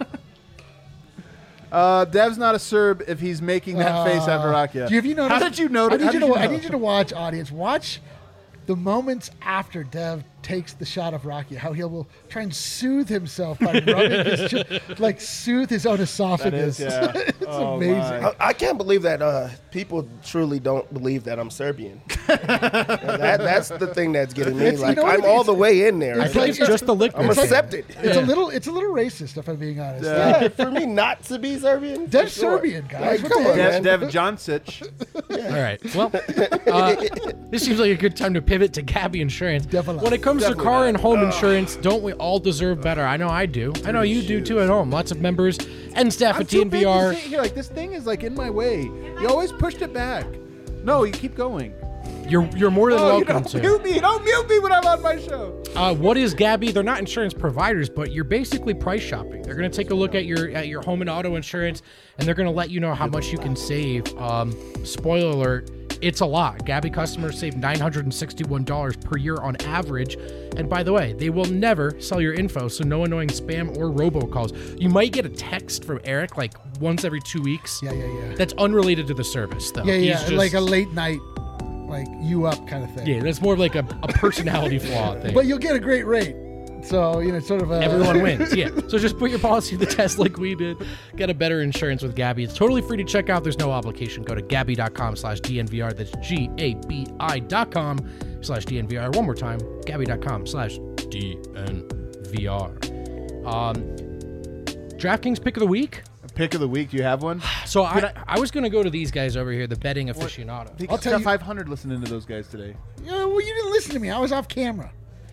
uh, Dev's not a Serb if he's making that face at Varakia. Do you, have you noticed? How did you notice? I how need, you did to, you I know? need you to watch, audience. Watch the moments after Dev takes the shot of Rocky. How he will try and soothe himself by rubbing his chin, like soothe his own esophagus. That is, yeah. It's Oh, amazing. my. I, I can't believe that uh, people truly don't believe that I'm Serbian. that, that's the thing that's getting me. It's- you Like know what I'm it all is? the way in there. I It's think like- it's just the liquor. I'm it's like- accepted. It's a little, it's a little racist, if I'm being honest. Yeah, for me not to be Serbian. Dev's for sure. Serbian, guys. Like, What come the on, heck? Dev, man. Dev Joncic. All right. Well, uh, this seems like a good time to pivot to Gabby Insurance. Definitely. When it comes to Definitely car not. and home insurance, don't we all deserve better? I know I do. I know you do too at home. Lots of members and staff I'm at too big to T N V R. sit here. Like this thing is like in my way. You always pushed it back. No, you keep going. You're you're more than Oh, you welcome don't to. mute me. Don't mute me when I'm on my show. Uh, what is Gabby? They're not insurance providers, but you're basically price shopping. They're going to take a look at your at your home and auto insurance, and they're going to let you know how much you can save. Um, spoiler alert: It's a lot. Gabby customers save nine hundred sixty-one dollars per year on average. And by the way, they will never sell your info, so no annoying spam or robocalls. You might get a text from Eric like once every two weeks. Yeah, yeah, yeah. That's unrelated to the service, though. Yeah, He's yeah, just- like a late night, like you up kind of thing. Yeah, that's more of like a, a personality flaw thing. But you'll get a great rate. So, you know, it's sort of a... Everyone wins, yeah. So just put your policy to the test like we did. Get a better insurance with Gabby. It's totally free to check out. There's no obligation. Go to Gabby.com slash DNVR. That's G-A-B-I dot com slash DNVR. One more time, Gabby.com slash DNVR. Um, DraftKings pick of the week. Pick of the week. Do you have one? So I, I was going to go to these guys over here, the betting aficionados. I'll I'll tell tell you- five hundred listening to those guys today. Yeah, well, you didn't listen to me. I was off camera.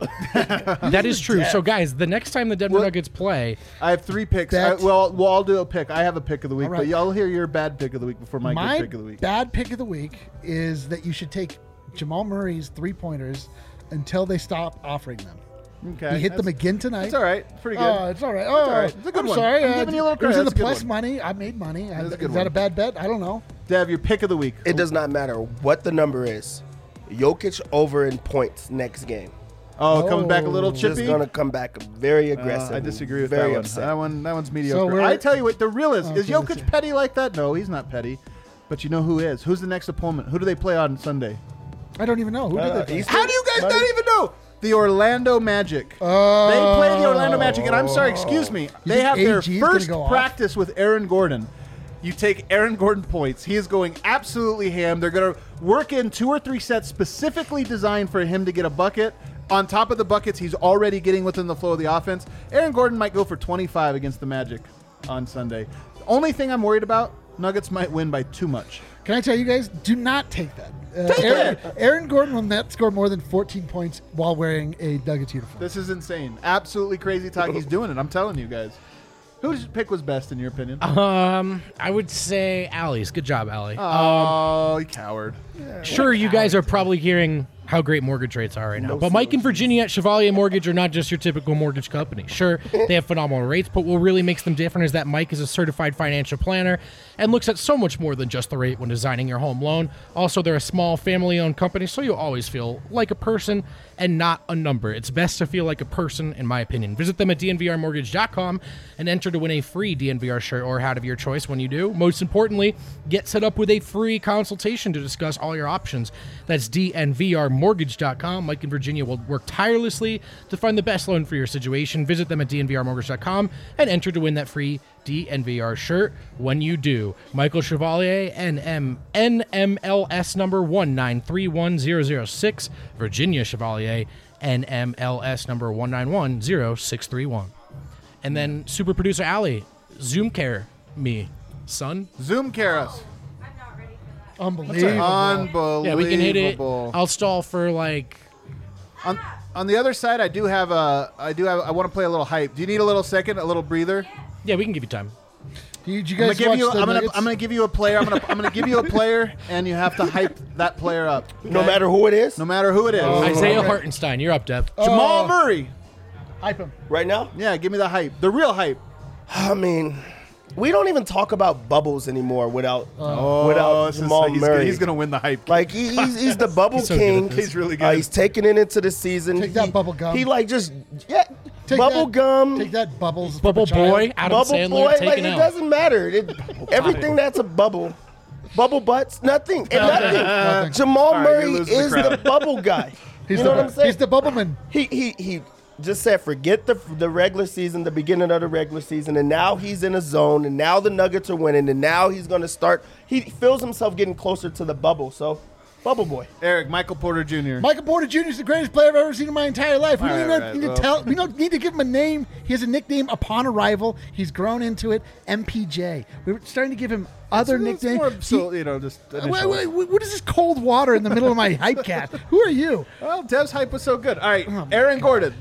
That is true. So guys, the next time the Denver What? Nuggets play, I have three picks. I, Bet. well, well, I'll do a pick. I have a pick of the week, All right. but y'all hear your bad pick of the week before my, My good pick of the week. bad pick of the week is that you should take Jamal Murray's three-pointers until they stop offering them. Okay, He hit them that's- again tonight. It's all right. Pretty good. Oh, it's all right. Oh, all right. It's a good I'm one. sorry. I'm uh, giving you a little It was credit. in the That's a good plus one. money. I made money. I, That's a is good that one. a bad bet? I don't know. Dev, your pick of the week. It does not matter what the number is. Jokic over in points next game. Oh, coming back a Oh. little Just chippy. going to come back very Uh, aggressive. I disagree with very that one. upset. That one. That one's mediocre. we're- I tell you what, the real is is Okay, let's Jokic see. petty like that? No, he's not petty. But you know who is? Who's the next opponent? Who do they play on Sunday? I don't even know. Who Uh, did they play? Eastern? How do you guys Monday? not even know? The Orlando Magic. Oh. They play the Orlando Magic, and I'm sorry, excuse me. They think have their A G is gonna first go off? practice with Aaron Gordon. You take Aaron Gordon points. He is going absolutely ham. They're going to work in two or three sets specifically designed for him to get a bucket. On top of the buckets, he's already getting within the flow of the offense. Aaron Gordon might go for twenty-five against the Magic on Sunday. The only thing I'm worried about, Nuggets might win by too much. Can I tell you guys? Do not take that. Uh, Take Aaron, it. Aaron Gordon will not score more than fourteen points while wearing a Nuggets uniform. This is insane. Absolutely crazy talk. He's doing it. I'm telling you guys. Whose pick was best in your opinion? um, I would say Allie's. Good job, Allie. Oh, you coward. Sure, you guys are probably hearing how great mortgage rates are right now. But Mike and Virginia at Chevalier Mortgage are not just your typical mortgage company. Sure, they have phenomenal rates, but what really makes them different is that Mike is a certified financial planner and looks at so much more than just the rate when designing your home loan. Also, they're a small family-owned company, so you'll always feel like a person and not a number. It's best to feel like a person, in my opinion. Visit them at D N V R mortgage dot com and enter to win a free D N V R shirt or hat of your choice when you do. Most importantly, get set up with a free consultation to discuss all your options. That's D N V R mortgage dot com. Mike and Virginia will work tirelessly to find the best loan for your situation. Visit them at D N V R mortgage dot com and enter to win that free D N V R shirt when you do. Michael Chevalier, N M N M L S number one nine three one zero zero six. Virginia Chevalier, N M L S number one nine one zero six three one. And then super producer Allie, Zoom care me, son. Zoom care us. I'm not ready for that. Unbelievable. Unbelievable. Yeah, we can hit it. I'll stall for like. On, on the other side, I do have a. I do have. I want to play a little hype. Do you need a little second, a little breather? Yeah, we can give you time. Did you I'm gonna guys give watch you. the I'm gonna. Nuggets? I'm gonna give you a player. I'm gonna. I'm gonna give you a player, and you have to hype that player up. No okay? matter who it is, No matter who it is. Isaiah okay. Hartenstein, you're up, Dev. Jamal Oh. Murray. Hype him. right now, Yeah, give me the hype. The real hype. I mean, we don't even talk about bubbles anymore without Oh, without this is- Jamal he's, Murray. He's gonna win the hype. Like he, he's, he's the bubble He's so good at king. this. He's really good. Uh, he's taking it into the season. Take that He- bubble gum. He like just yeah, Take bubble that- gum, Take that bubbles. from Bubble a child. Boy, Adam bubble Sandler, boy. Like taking it out. doesn't matter. It, everything that's a bubble, bubble butts, nothing, and nothing. Nothing. Jamal right, you're Murray losing the is crowd. the bubble guy. He's you the, know what I'm saying? He's the bubbleman. He he he just said forget the the regular season, the beginning of the regular season, and now he's in a zone, and now the Nuggets are winning, and now he's going to start. He feels himself getting closer to the bubble. So, bubble boy. Eric, Michael Porter Junior Michael Porter Junior is the greatest player I've ever seen in my entire life. We All don't right, even right, need well. to tell. We don't need to give him a name. He has a nickname upon arrival. He's grown into it. M P J. We're starting to give him other It's nicknames. more, He- so, you know, just Wait, initials. wait, wait, what is this cold water in the middle of my hype cat? Who are you? Well, Dev's hype was so good. All right, Oh, Aaron Gordon.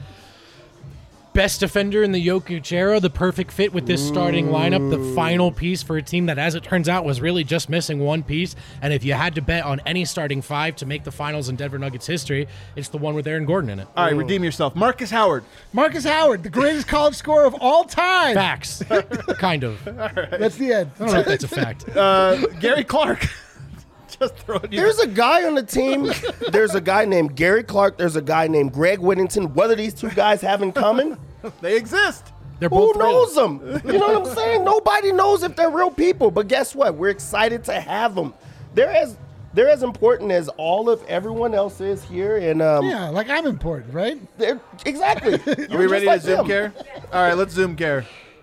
Best defender in the Jokic era, the perfect fit with this starting lineup, the final piece for a team that, as it turns out, was really just missing one piece. And if you had to bet on any starting five to make the finals in Denver Nuggets history, it's the one with Aaron Gordon in it. All right, redeem yourself. Marcus Howard. Marcus Howard, the greatest college scorer of all time. Facts. Kind of. I That's the end. don't know if that's a fact. Uh, Gary Clark. Just throwing you. There's a guy on the team. There's a guy named Gary Clark. There's a guy named Greg Whittington. What do these two guys have in common? They exist. They're Who both knows real. them? You know what I'm saying? Nobody knows if they're real people. But guess what? We're excited to have them. They're as they're as important as all of everyone else is here. And um, Yeah, like I'm important, right? they're exactly. Are we ready to Zoom care? All right, let's Zoom care.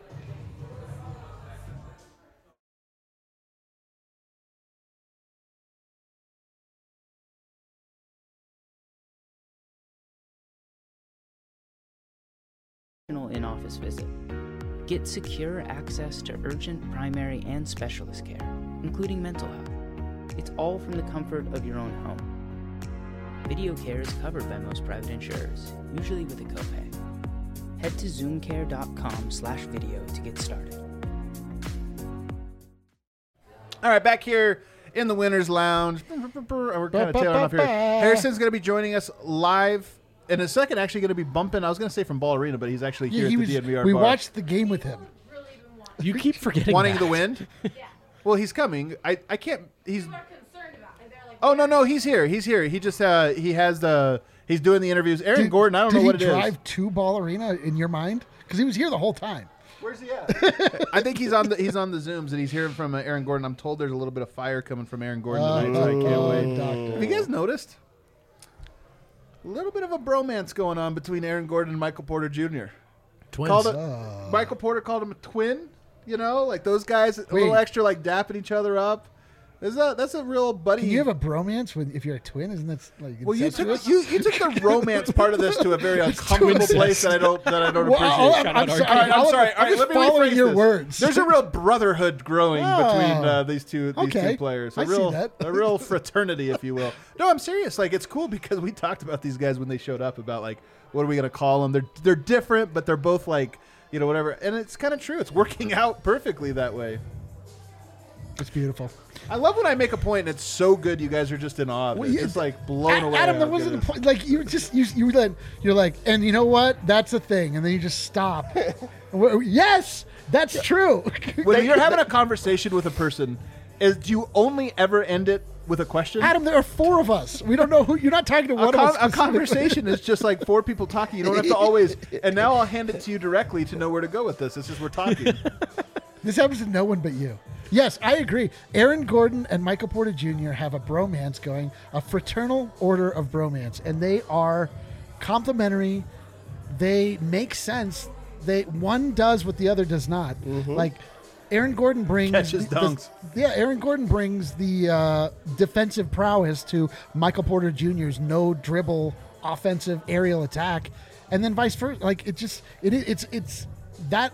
In-office visit. Get secure access to urgent, primary, and specialist care, including mental health. It's all from the comfort of your own home. Video care is covered by most private insurers, usually with a copay. Head to zoomcare.com slash video to get started. All right, back here in the Winners Lounge. We're kind of tailing off here. Harrison's going to be joining us live in a second. Actually, going to be bumping. I was going to say from Ball Arena, but he's actually here Yeah, at he the was, D N V R we bar. watched the game with him. Really been watching. You keep forgetting wanting that. the wind. Well, he's coming. I, I can't. He's. People are concerned about it. They're like, Oh no no he's here. He's here. He just uh he has the he's doing the interviews. Aaron Did- Gordon. I don't did know what he it is. drive to Ball Arena in your mind? Because he was here the whole time. Where's he at? I think he's on the he's on the Zooms and he's hearing from uh, Aaron Gordon. I'm told there's a little bit of fire coming from Aaron Gordon tonight, so I can't Oh, wait. doctor. Have you guys noticed? A little bit of a bromance going on between Aaron Gordon and Michael Porter Junior Twins. Called it, Michael Porter called him a twin. You know, like those guys, a little Wait. extra, like dapping each other up. Is that that's a real buddy? Can you have a bromance with if you're a twin? Isn't that like well, you took incestuous? you, you took the romance part of this to a very uncomfortable place that I don't that I don't Well, appreciate. all I'm, Shout I'm out sorry. Arcade. All right, I'm all sorry. All right, just let me following rephrase your this. words. There's a real brotherhood growing Oh. between uh, these two these Okay. two players. A I see real that. a real fraternity, if you will. No, I'm serious. Like it's cool because we talked about these guys when they showed up about like what are we gonna call them? They're they're different, but they're both like you know whatever. And it's kind of true. It's working out perfectly that way. It's beautiful. I love when I make a point and it's so good you guys are just in awe. Of it. Well, It's yeah, just like blown Ad- away. Adam, how there good wasn't it a is. point. Like you just you you then you're like, and you know what? That's a thing, and then you just stop. Well, yes, that's true. When you're having a conversation with a person, is do you only ever end it with a question? Adam, there are four of us. We don't know who. You're not talking to a, one con- of us. a specifically. conversation is just like four people talking. You don't have to always. And now I'll hand it to you directly to know where to go with this. It's just we're talking. This happens to no one but you. Yes, I agree. Aaron Gordon and Michael Porter Junior have a bromance going, a fraternal order of bromance, and they are complementary. They make sense. They one does what the other does not. Like Aaron Gordon brings Catches the- dunks. the- yeah, Aaron Gordon brings the uh, defensive prowess to Michael Porter Junior's no dribble offensive aerial attack, and then vice versa. Like it just it it's it's that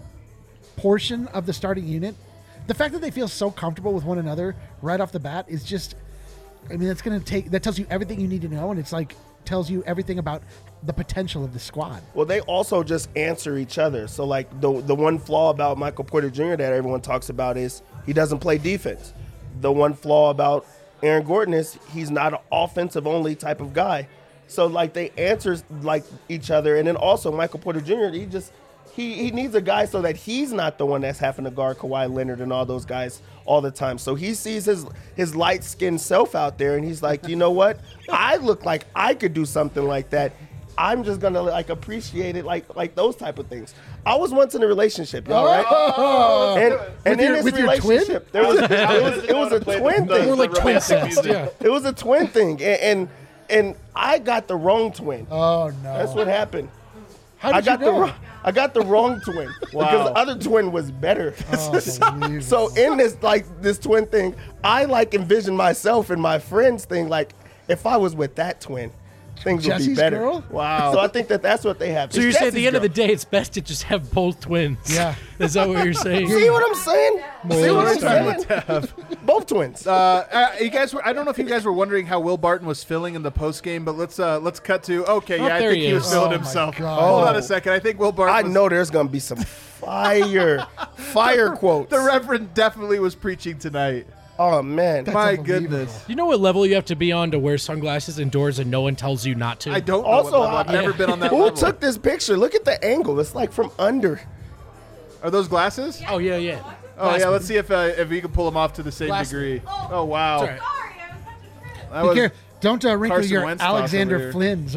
portion of the starting unit. The fact that they feel so comfortable with one another right off the bat is just, I mean, that's going to take, that tells you everything you need to know. And it's like, tells you everything about the potential of the squad. Well, they also just answer each other. So, like, the the one flaw about Michael Porter Junior that everyone talks about is he doesn't play defense. The one flaw about Aaron Gordon is he's not an offensive-only type of guy. So, like, they answer, like, each other. And then also Michael Porter Junior, he just, he, he needs a guy so that he's not the one that's having to guard Kawhi Leonard and all those guys all the time. So he sees his his light-skinned self out there, and he's like, you know what? I look like I could do something like that. I'm just gonna like appreciate it, like like those type of things. I was once in a relationship, y'all, right? Oh. And and in your- this with your twin? relationship, there was it was it was a twin thing. More like twin sets. Yeah. It was a twin thing, and and, and I got the wrong twin. Oh, no. That's what happened. How did I got you the know? wrong, I got the wrong twin because the other twin was better. Oh, unbelievable. So in this like this twin thing, I like envision myself and my friends thing like if I was with that twin, things would be Jesse's better. girl? Wow. So I think that that's what they have. So It's you're saying at Jesse's the end of the girl. day, it's best to just have both twins. Yeah. Is that what you're saying? See what I'm saying? See what I'm saying? Both twins. Uh, uh, you guys were, I don't know if you guys were wondering how Will Barton was feeling in the post game, but let's uh, let's cut to okay. Oh, Yeah, I there think he he was is. feeling Oh, my himself. God. Hold on Oh. a second. I think Will Barton. I was- know there's gonna be some fire, fire quotes. the Reverend definitely was preaching tonight. Oh man, That's My unbelievable. goodness. You know what level you have to be on to wear sunglasses indoors and no one tells you not to? I don't know. Also, what level. I've I- never been on that who level. took this picture? Look at the angle. It's like from under. Are those glasses? Oh, yeah, yeah. Oh Glass- yeah. Let's see if uh, if we can pull them off to the same Glass- degree. Oh wow. It's all right. Sorry. That Be was care- Don't uh, wrinkle Carson your Wentz toss Alexander over here. Flynn's.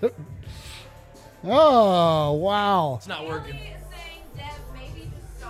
Oh, wow. It's not working. Kelly is saying, Dev, maybe just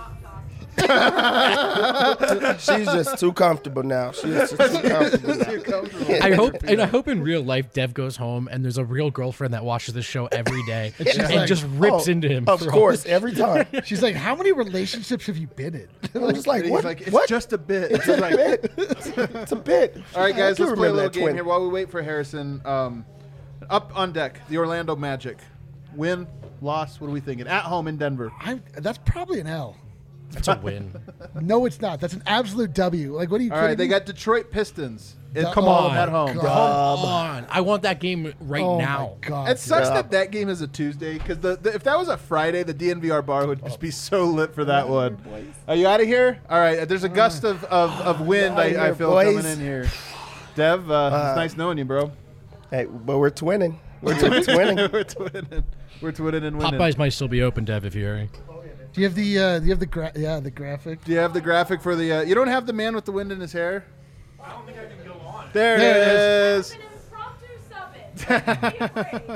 stop talking. She's just too comfortable now. She's just too comfortable now. too comfortable. I hope, and I hope in real life, Dev goes home and there's a real girlfriend that watches this show every day and, she's like, just rips Oh, into him. Of for all course, every time. She's like, how many relationships have you been in? I'm just like, He's what? like, it's what? just a bit. It's a bit. It's a bit. All right, guys, I let's do play a remember little that game twin. here while we wait for Harrison. Um, up on deck, the Orlando Magic. Win, loss, what are we thinking? At home in Denver. I, that's probably an L. That's a win. No, it's not. That's an absolute W. Like, what are you All kidding right, they me? got Detroit Pistons. It- Oh, Come on. at home. God. Come on. I want that game right Oh, now. my God. It sucks Yeah. that that game is a Tuesday because the, the if that was a Friday, the D N V R bar would just be so lit for that one. Are you out of here? All right, there's a gust of, of, of wind Outta I, I here, feel boys. coming in here. Dev, uh, it's nice knowing you, bro. Hey, but we're twinning. We're twinning. We're twinning. We're twinning and winning. Popeyes might still be open, Dev, if you're hearing. Do you have the, uh, do you have the, gra- yeah, the graphic? Do you have the graphic for the? Uh, you don't have the man with the wind in his hair. I don't think I can go on. There, There it it is. An impromptu sub it. Don't be afraid.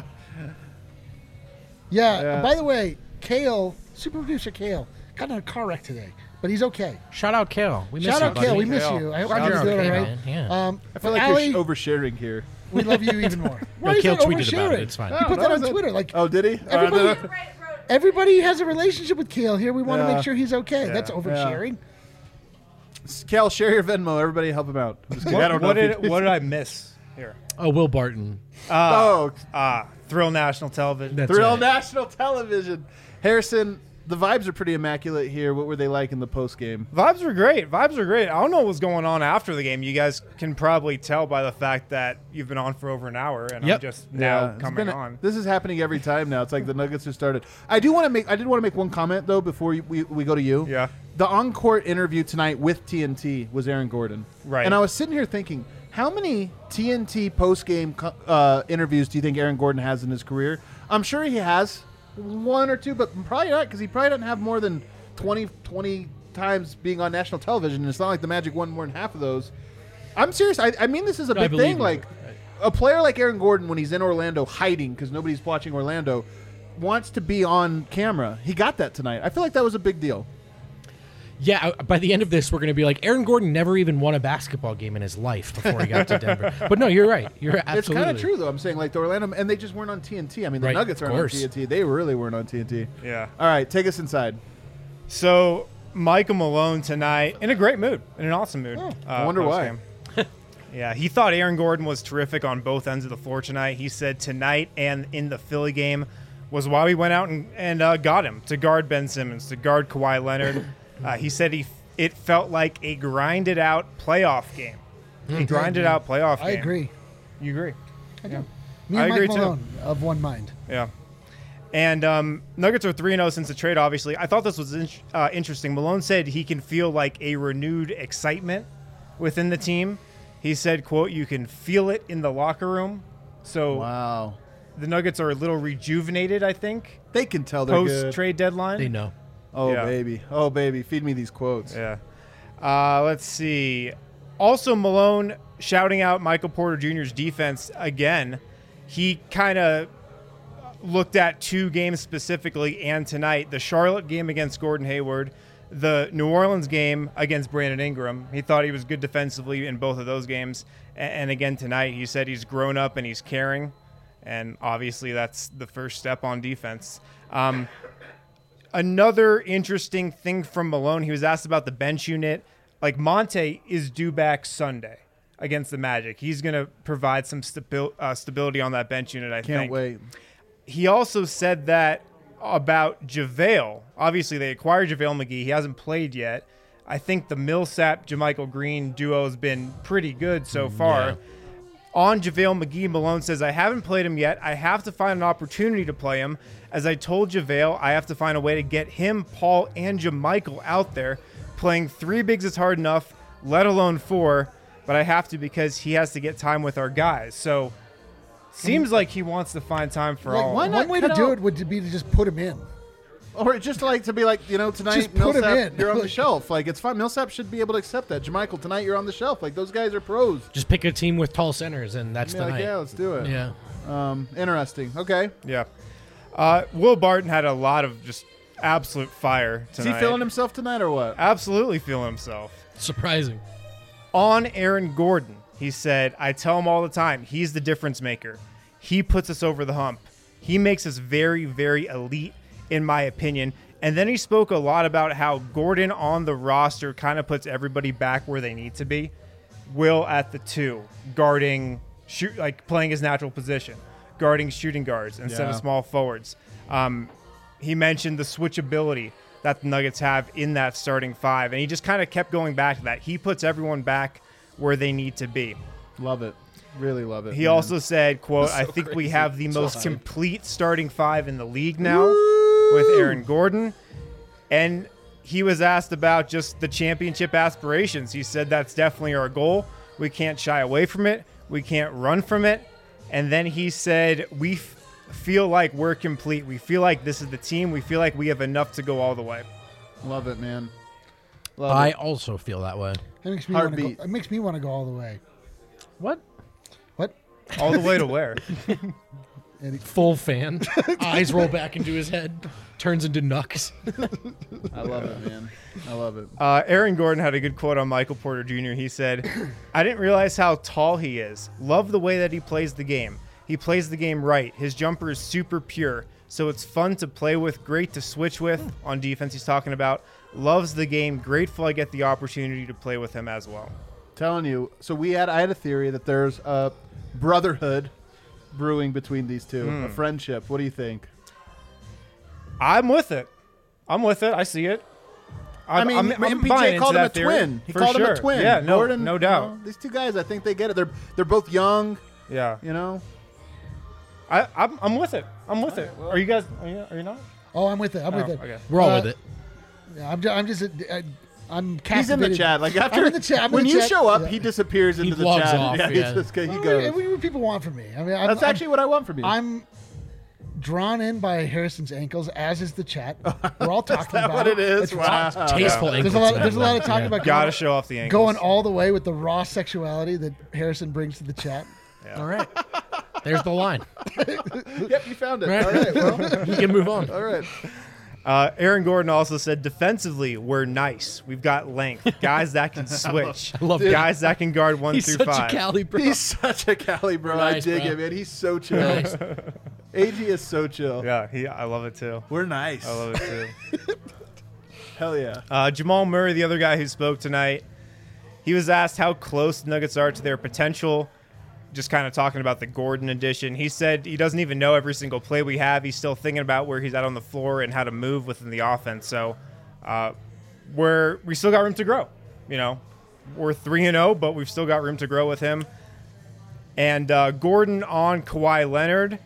Yeah. Yeah. By the way, Kale, super producer Kale, got in a car wreck today, but he's okay. Shout out, Kale. We miss Shout you, out buddy. Kale, we miss Kale. you. I hope Glad you're you're doing okay, all right. man. Yeah. Um, I feel for like Allie, you're oversharing here. we love you even more. Why No, is Kale that tweeted about it. oversharing? It's fine. He Oh, put that that on was it. Twitter. Like, Oh, did he? Everybody- Uh, did I- Right, wrote it. everybody has a relationship with Kale here. We want to Yeah. make sure he's okay. That's oversharing. Cal, share your Venmo. Everybody help him out. I'm just kidding. I don't know. What if did he- what did I miss here? Oh, Will Barton. Oh, Ah, Thrill National Television. That's Thrill right. National Television. Harrison, the vibes are pretty immaculate here. What were they like in the post game? Vibes were great. Vibes were great. I don't know what was going on after the game. You guys can probably tell by the fact that you've been on for over an hour, and Yep. I'm just now it's coming been- on. This is happening every time now. It's like the Nuggets have started. I do want to make. I did want to make one comment though before you, we we go to you. Yeah. The on-court interview tonight with T N T was Aaron Gordon. Right. And I was sitting here thinking, how many T N T post-game co- uh, interviews do you think Aaron Gordon has in his career? I'm sure he has one or two, but probably not because he probably doesn't have more than twenty, twenty times being on national television. And it's not like the Magic won more than half of those. I'm serious. I, I mean, this is a I big believe thing. you. Like a player like Aaron Gordon, when he's in Orlando hiding because nobody's watching Orlando, wants to be on camera. He got that tonight. I feel like that was a big deal. Yeah, uh, by the end of this, we're going to be like, Aaron Gordon never even won a basketball game in his life before he got to Denver. But no, you're right. You're absolutely. It's kind of true, though. I'm saying, like, the Orlando, and they just weren't on T N T. I mean, the Right, Nuggets of aren't on course. T N T. They really weren't on T N T. Yeah. All right, take us inside. So Michael Malone tonight in a great mood, in an awesome mood. uh, I wonder why. post-game. Yeah, he thought Aaron Gordon was terrific on both ends of the floor tonight. He said tonight and in the Philly game was why we went out and, and uh, got him to guard Ben Simmons, to guard Kawhi Leonard. Uh, he said he it felt like a grinded out playoff game. A grinded out playoff game. I agree. You agree? I do. Yeah. Me I and agree Mike too. Malone of one mind. Yeah. And um, Nuggets are three and oh since the trade, obviously. I thought this was in- uh, interesting. Malone said he can feel like a renewed excitement within the team. He said, quote, you can feel it in the locker room. So Wow. the Nuggets are a little rejuvenated, I think, They can tell they're good. post-trade deadline. They know. Oh, Yeah. baby. Oh, baby. Feed me these quotes. Yeah. Uh, let's see. Also, Malone shouting out Michael Porter Junior's defense again. He kind of looked at two games specifically, and tonight, the Charlotte game against Gordon Hayward, the New Orleans game against Brandon Ingram. He thought he was good defensively in both of those games. A- And again tonight, he said he's grown up and he's caring. And obviously, that's the first step on defense. Um, Another interesting thing from Malone, he was asked about the bench unit. Like, Monte is due back Sunday against the Magic. He's going to provide some stabi- uh, stability on that bench unit, I Can't think. wait. He also said that about JaVale. Obviously, they acquired JaVale McGee. He hasn't played yet. I think the Millsap, JaMychal Green duo has been pretty good so far. yeah. On JaVale McGee, Malone says, I haven't played him yet. I have to find an opportunity to play him. As I told JaVale, I have to find a way to get him, Paul, and JaMychal out there. Playing three bigs is hard enough, let alone four, but I have to because he has to get time with our guys. So, seems like he wants to find time for Like, all. why of not them. one way to cut do out- it would be to just put him in. Or just like to be like, you know, tonight Just put him Millsap, in. you're on the shelf. Like it's fine. Millsap should be able to accept that. Jermichael, tonight you're on the shelf. Like those guys are pros. Just pick a team with tall centers, and that's Yeah, the like, night. yeah, let's do it. Yeah. Um, interesting. Okay. Yeah. Uh, Will Barton had a lot of just absolute fire Is tonight. he feeling himself tonight or what? Absolutely feeling himself. Surprising. On Aaron Gordon, he said, I tell him all the time, he's the difference maker. He puts us over the hump. He makes us very, very elite, in my opinion. And then he spoke a lot about how Gordon on the roster kind of puts everybody back where they need to be. Will at the two, guarding, shoot, like playing his natural position, guarding shooting guards instead Yeah. of small forwards. Um, he mentioned the switchability that the Nuggets have in that starting five, and he just kind of kept going back to that. He puts everyone back where they need to be. Love it. Really love it. He man. also said, quote, That's I so think we crazy. have the So most hype. complete starting five in the league now with Aaron Gordon. And he was asked about just the championship aspirations. He said that's definitely our goal. We can't shy away from it. We can't run from it. And then he said, we f- feel like we're complete. We feel like this is the team. We feel like we have enough to go all the way. Love it, man. Love I it. also feel that way. That makes me want to go. Heartbeat. It makes me want to go all the way. What? What? All the way to where? Eddie? Full fan. Eyes roll back into his head. Turns into Nux. I love it, man. I love it. Uh, Aaron Gordon had a good quote on Michael Porter Junior He said, I didn't realize how tall he is. Love the way that he plays the game. He plays the game right. His jumper is super pure, so it's fun to play with, great to switch with. On defense, he's talking about. Loves the game. Grateful I get the opportunity to play with him as well. Telling you. So we had I had a theory that there's a brotherhood brewing between these two, Hmm. a friendship. What do you think? I'm with it. I'm with it. I see it. I I'm, mean, I'm, I'm M P buying J called into him a that theory, twin. He for called him sure. a twin. Yeah, no, Gordon, no you doubt. know, these two guys, I think they get it. They're they're both young. Yeah, You know. I, I'm, I'm with it. I'm with it. Are you guys? Are you, are you not? Oh, I'm with it. I'm Oh, with it. okay. We're all Uh, with it. Yeah, I'm just, I'm just, uh, I'm He's in the captivated. chat. Like after I'm in the chat. I'm in when the you chat. show up, Yeah. he disappears He into the logs chat. off, yeah, yeah. He, just, he Well, goes. what do people want from me? I mean, I'm, That's I'm- actually what I want from you. I'm drawn in by Harrison's ankles, as is the chat. We're all talking Is that about what it is? It's- Wow. Tasteful Yeah. There's a lot. There's a lot of talking about Gotta going, show off the angles. going all the way with the raw sexuality that Harrison brings to the chat. All right. There's the line. Yep, you found it. Right. All right. Well, We can move on. all right. Uh, Aaron Gordon also said, defensively, we're nice. We've got length. Guys that can switch. I love Guys that can guard one He's through such five. a Cali bro. He's such a Cali bro. I Nice, dig bro. him, man. He's so chill. Nice. A G is so chill. Yeah, he, I love it too. We're nice. I love it too. Hell yeah. Uh, Jamal Murray, the other guy who spoke tonight, he was asked how close the Nuggets are to their potential. Just kind of talking about the Gordon addition. He said he doesn't even know every single play we have. He's still thinking about where he's at on the floor and how to move within the offense. So uh, we're we still got room to grow. You know, we're three and zero, but we've still got room to grow with him. And uh, Gordon on Kawhi Leonard.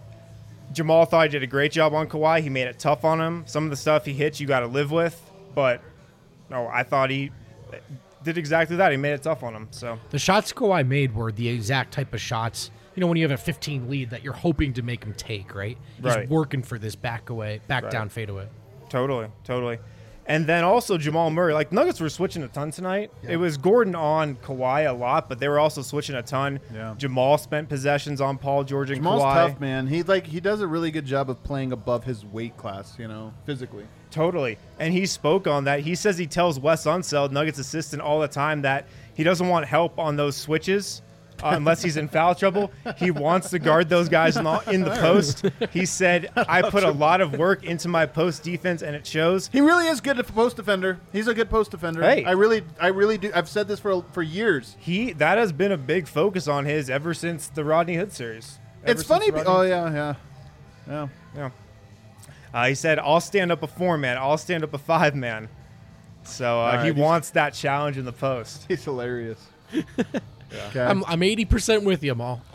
Jamal thought he did a great job on Kawhi. He made it tough on him. Some of the stuff he hits, you got to live with. But no, I thought he did exactly that. He made it tough on him. So The shots Kawhi made were the exact type of shots, you know, when you have a fifteen lead that you're hoping to make him take, right? He's Right. working for this back away, back Right. down fadeaway. totally, totally. And then also Jamal Murray. Like Nuggets were switching a ton tonight. It was Gordon on Kawhi a lot, but they were also switching a ton. Yeah. Jamal spent possessions on Paul George and Jamal's Kawhi. tough, man. He like he does a really good job of playing above his weight class, you know, physically. Totally. And he spoke on that. He says he tells Wes Unseld, Nuggets assistant, all the time that he doesn't want help on those switches uh, unless he's in foul trouble. He wants to guard those guys in the, in the post. He said, I put a lot of work into my post defense, and it shows. He really is good at post defender. He's a good post defender. Hey. I really, I really do. I've said this for for years. He That has been a big focus on his ever since the Rodney Hood series. Ever It's since funny. the be- Rodney Oh Hood yeah, yeah, yeah. Yeah. Uh, he said, I'll stand up a four man. I'll stand up a five man. So uh, All right, he he's- wants that challenge in the post. He's hilarious. Okay. I'm I'm eighty percent with you, Maul.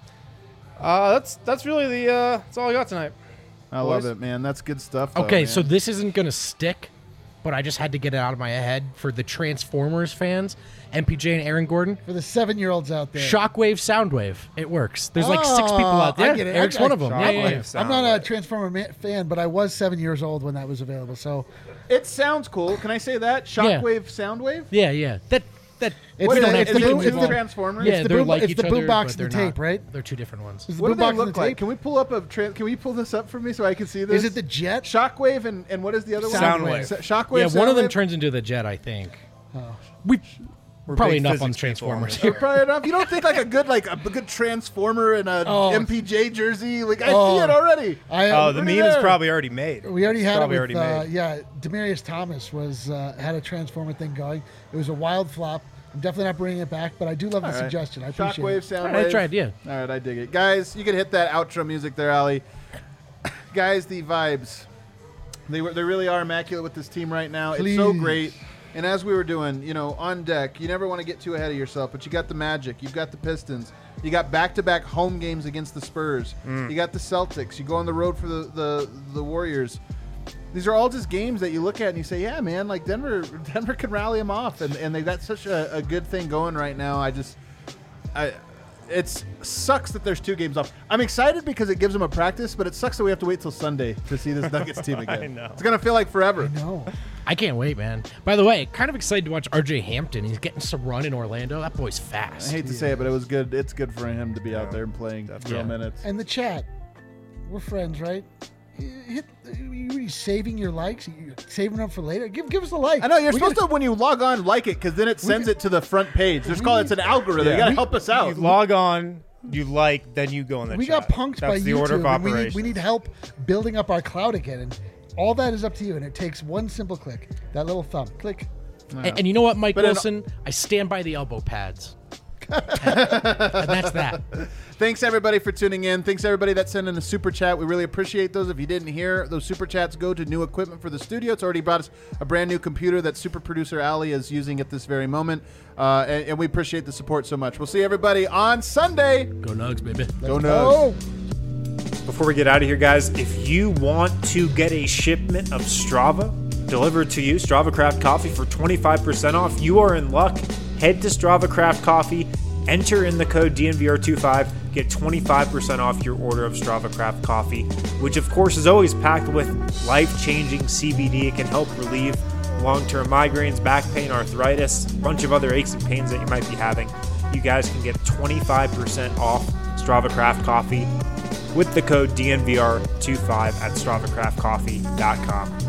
Uh, that's that's really the uh, that's all I got tonight. I love boys. it, man. That's good stuff. though, Okay, man. so this isn't gonna stick, but I just had to get it out of my head for the Transformers fans, M P J and Aaron Gordon. For the seven-year-olds out there. Shockwave, Soundwave. It works. There's like six people out Oh, there. I get it. Eric's I- one of them. I- Yeah, yeah, yeah. I'm not a Transformer ma- fan, but I was seven years old when that was available. So It sounds cool. Can I say that? Shockwave, Soundwave. Yeah, yeah. That that. It's What the- is it? it's Is the it boom- two it's the- Transformers? Yeah, it's the they're boom- like it's each the other, boombox but and the they're tape, not. right? They're two different ones. Is the What do they boombox and look the like? tape? Can we pull up a? Tra- can we pull this up for me so I can see this? Is it the Jet? Shockwave and and what is the other Soundwave. one? Sa- Shockwave. Yeah, one of them Soundwave? turns into the jet, I think. Oh. We We're probably big enough on physics people on Transformers this here. Probably enough. You don't think like a good like a good Transformer and a Oh. M P J jersey? Like I Oh. see it already. I, Oh, the Pretty meme is there. probably already made. We already It's had it probably with, already uh, made. yeah, Demarius Thomas was uh, had a Transformer thing going. It was a wild flop. I'm definitely not bringing it back, but I do love the All right. suggestion. I appreciate Shockwave, it. Soundwave. I tried, yeah. All right, I dig it, guys. You can hit that outro music there, Ali. Guys, the vibes. They were, they really are immaculate with this team right now. It's so Please. great. And as we were doing, you know, on deck, you never want to get too ahead of yourself, but you got the Magic, you've got the Pistons, you got back-to-back home games against the Spurs, you got the Celtics, you go on the road for the, the, the Warriors. These are all just games that you look at and you say, yeah, man, like Denver Denver can rally them off, and, and they got such a, a good thing going right now. I just, I, it sucks that there's two games off. I'm excited because it gives them a practice, but it sucks that we have to wait till Sunday to see this Nuggets team again. I know. It's gonna feel like forever. No. I can't wait, man. By the way, kind of excited to watch R J Hampton. He's getting some run in Orlando. That boy's I fast. hate to say it, but it was good. It's good for him to be out there and playing real Yeah. minutes. And the chat, we're friends, right? You Hit, you you saving your likes? You saving them for later? Give give us a like. I know you're We supposed gotta- to when you log on like it because then it sends got- it to the front page. There's called it's an algorithm. Yeah. You gotta We- help us out. You log on, you like, then you go in the We chat. got punked That's by the YouTube. order of and we, operations. need, we need help building up our cloud again, and all that is up to you. And it takes one simple click, that little thumb, click. And, and you know what, Mike But in- Wilson? I stand by the elbow pads. and that's that. Thanks everybody for tuning in. Thanks everybody that sent in a super chat. We really appreciate those. If you didn't hear those super chats, go to new equipment for the studio. It's already brought us a brand new computer that super producer Ali is using at this very moment, uh, and, and we appreciate the support so much. We'll see everybody on Sunday. Go Nugs, baby. Go Nugs. Oh, Before we get out of here, guys, if you want to get a shipment of Strava delivered to you, Strava Craft Coffee, for twenty-five percent off, you are in luck. Head to Strava Craft Coffee, enter in the code D N V R twenty-five, get twenty-five percent off your order of Strava Craft Coffee, which of course is always packed with life-changing C B D. It can help relieve long-term migraines, back pain, arthritis, a bunch of other aches and pains that you might be having. You guys can get twenty-five percent off Strava Craft Coffee with the code D N V R twenty-five at strava craft coffee dot com.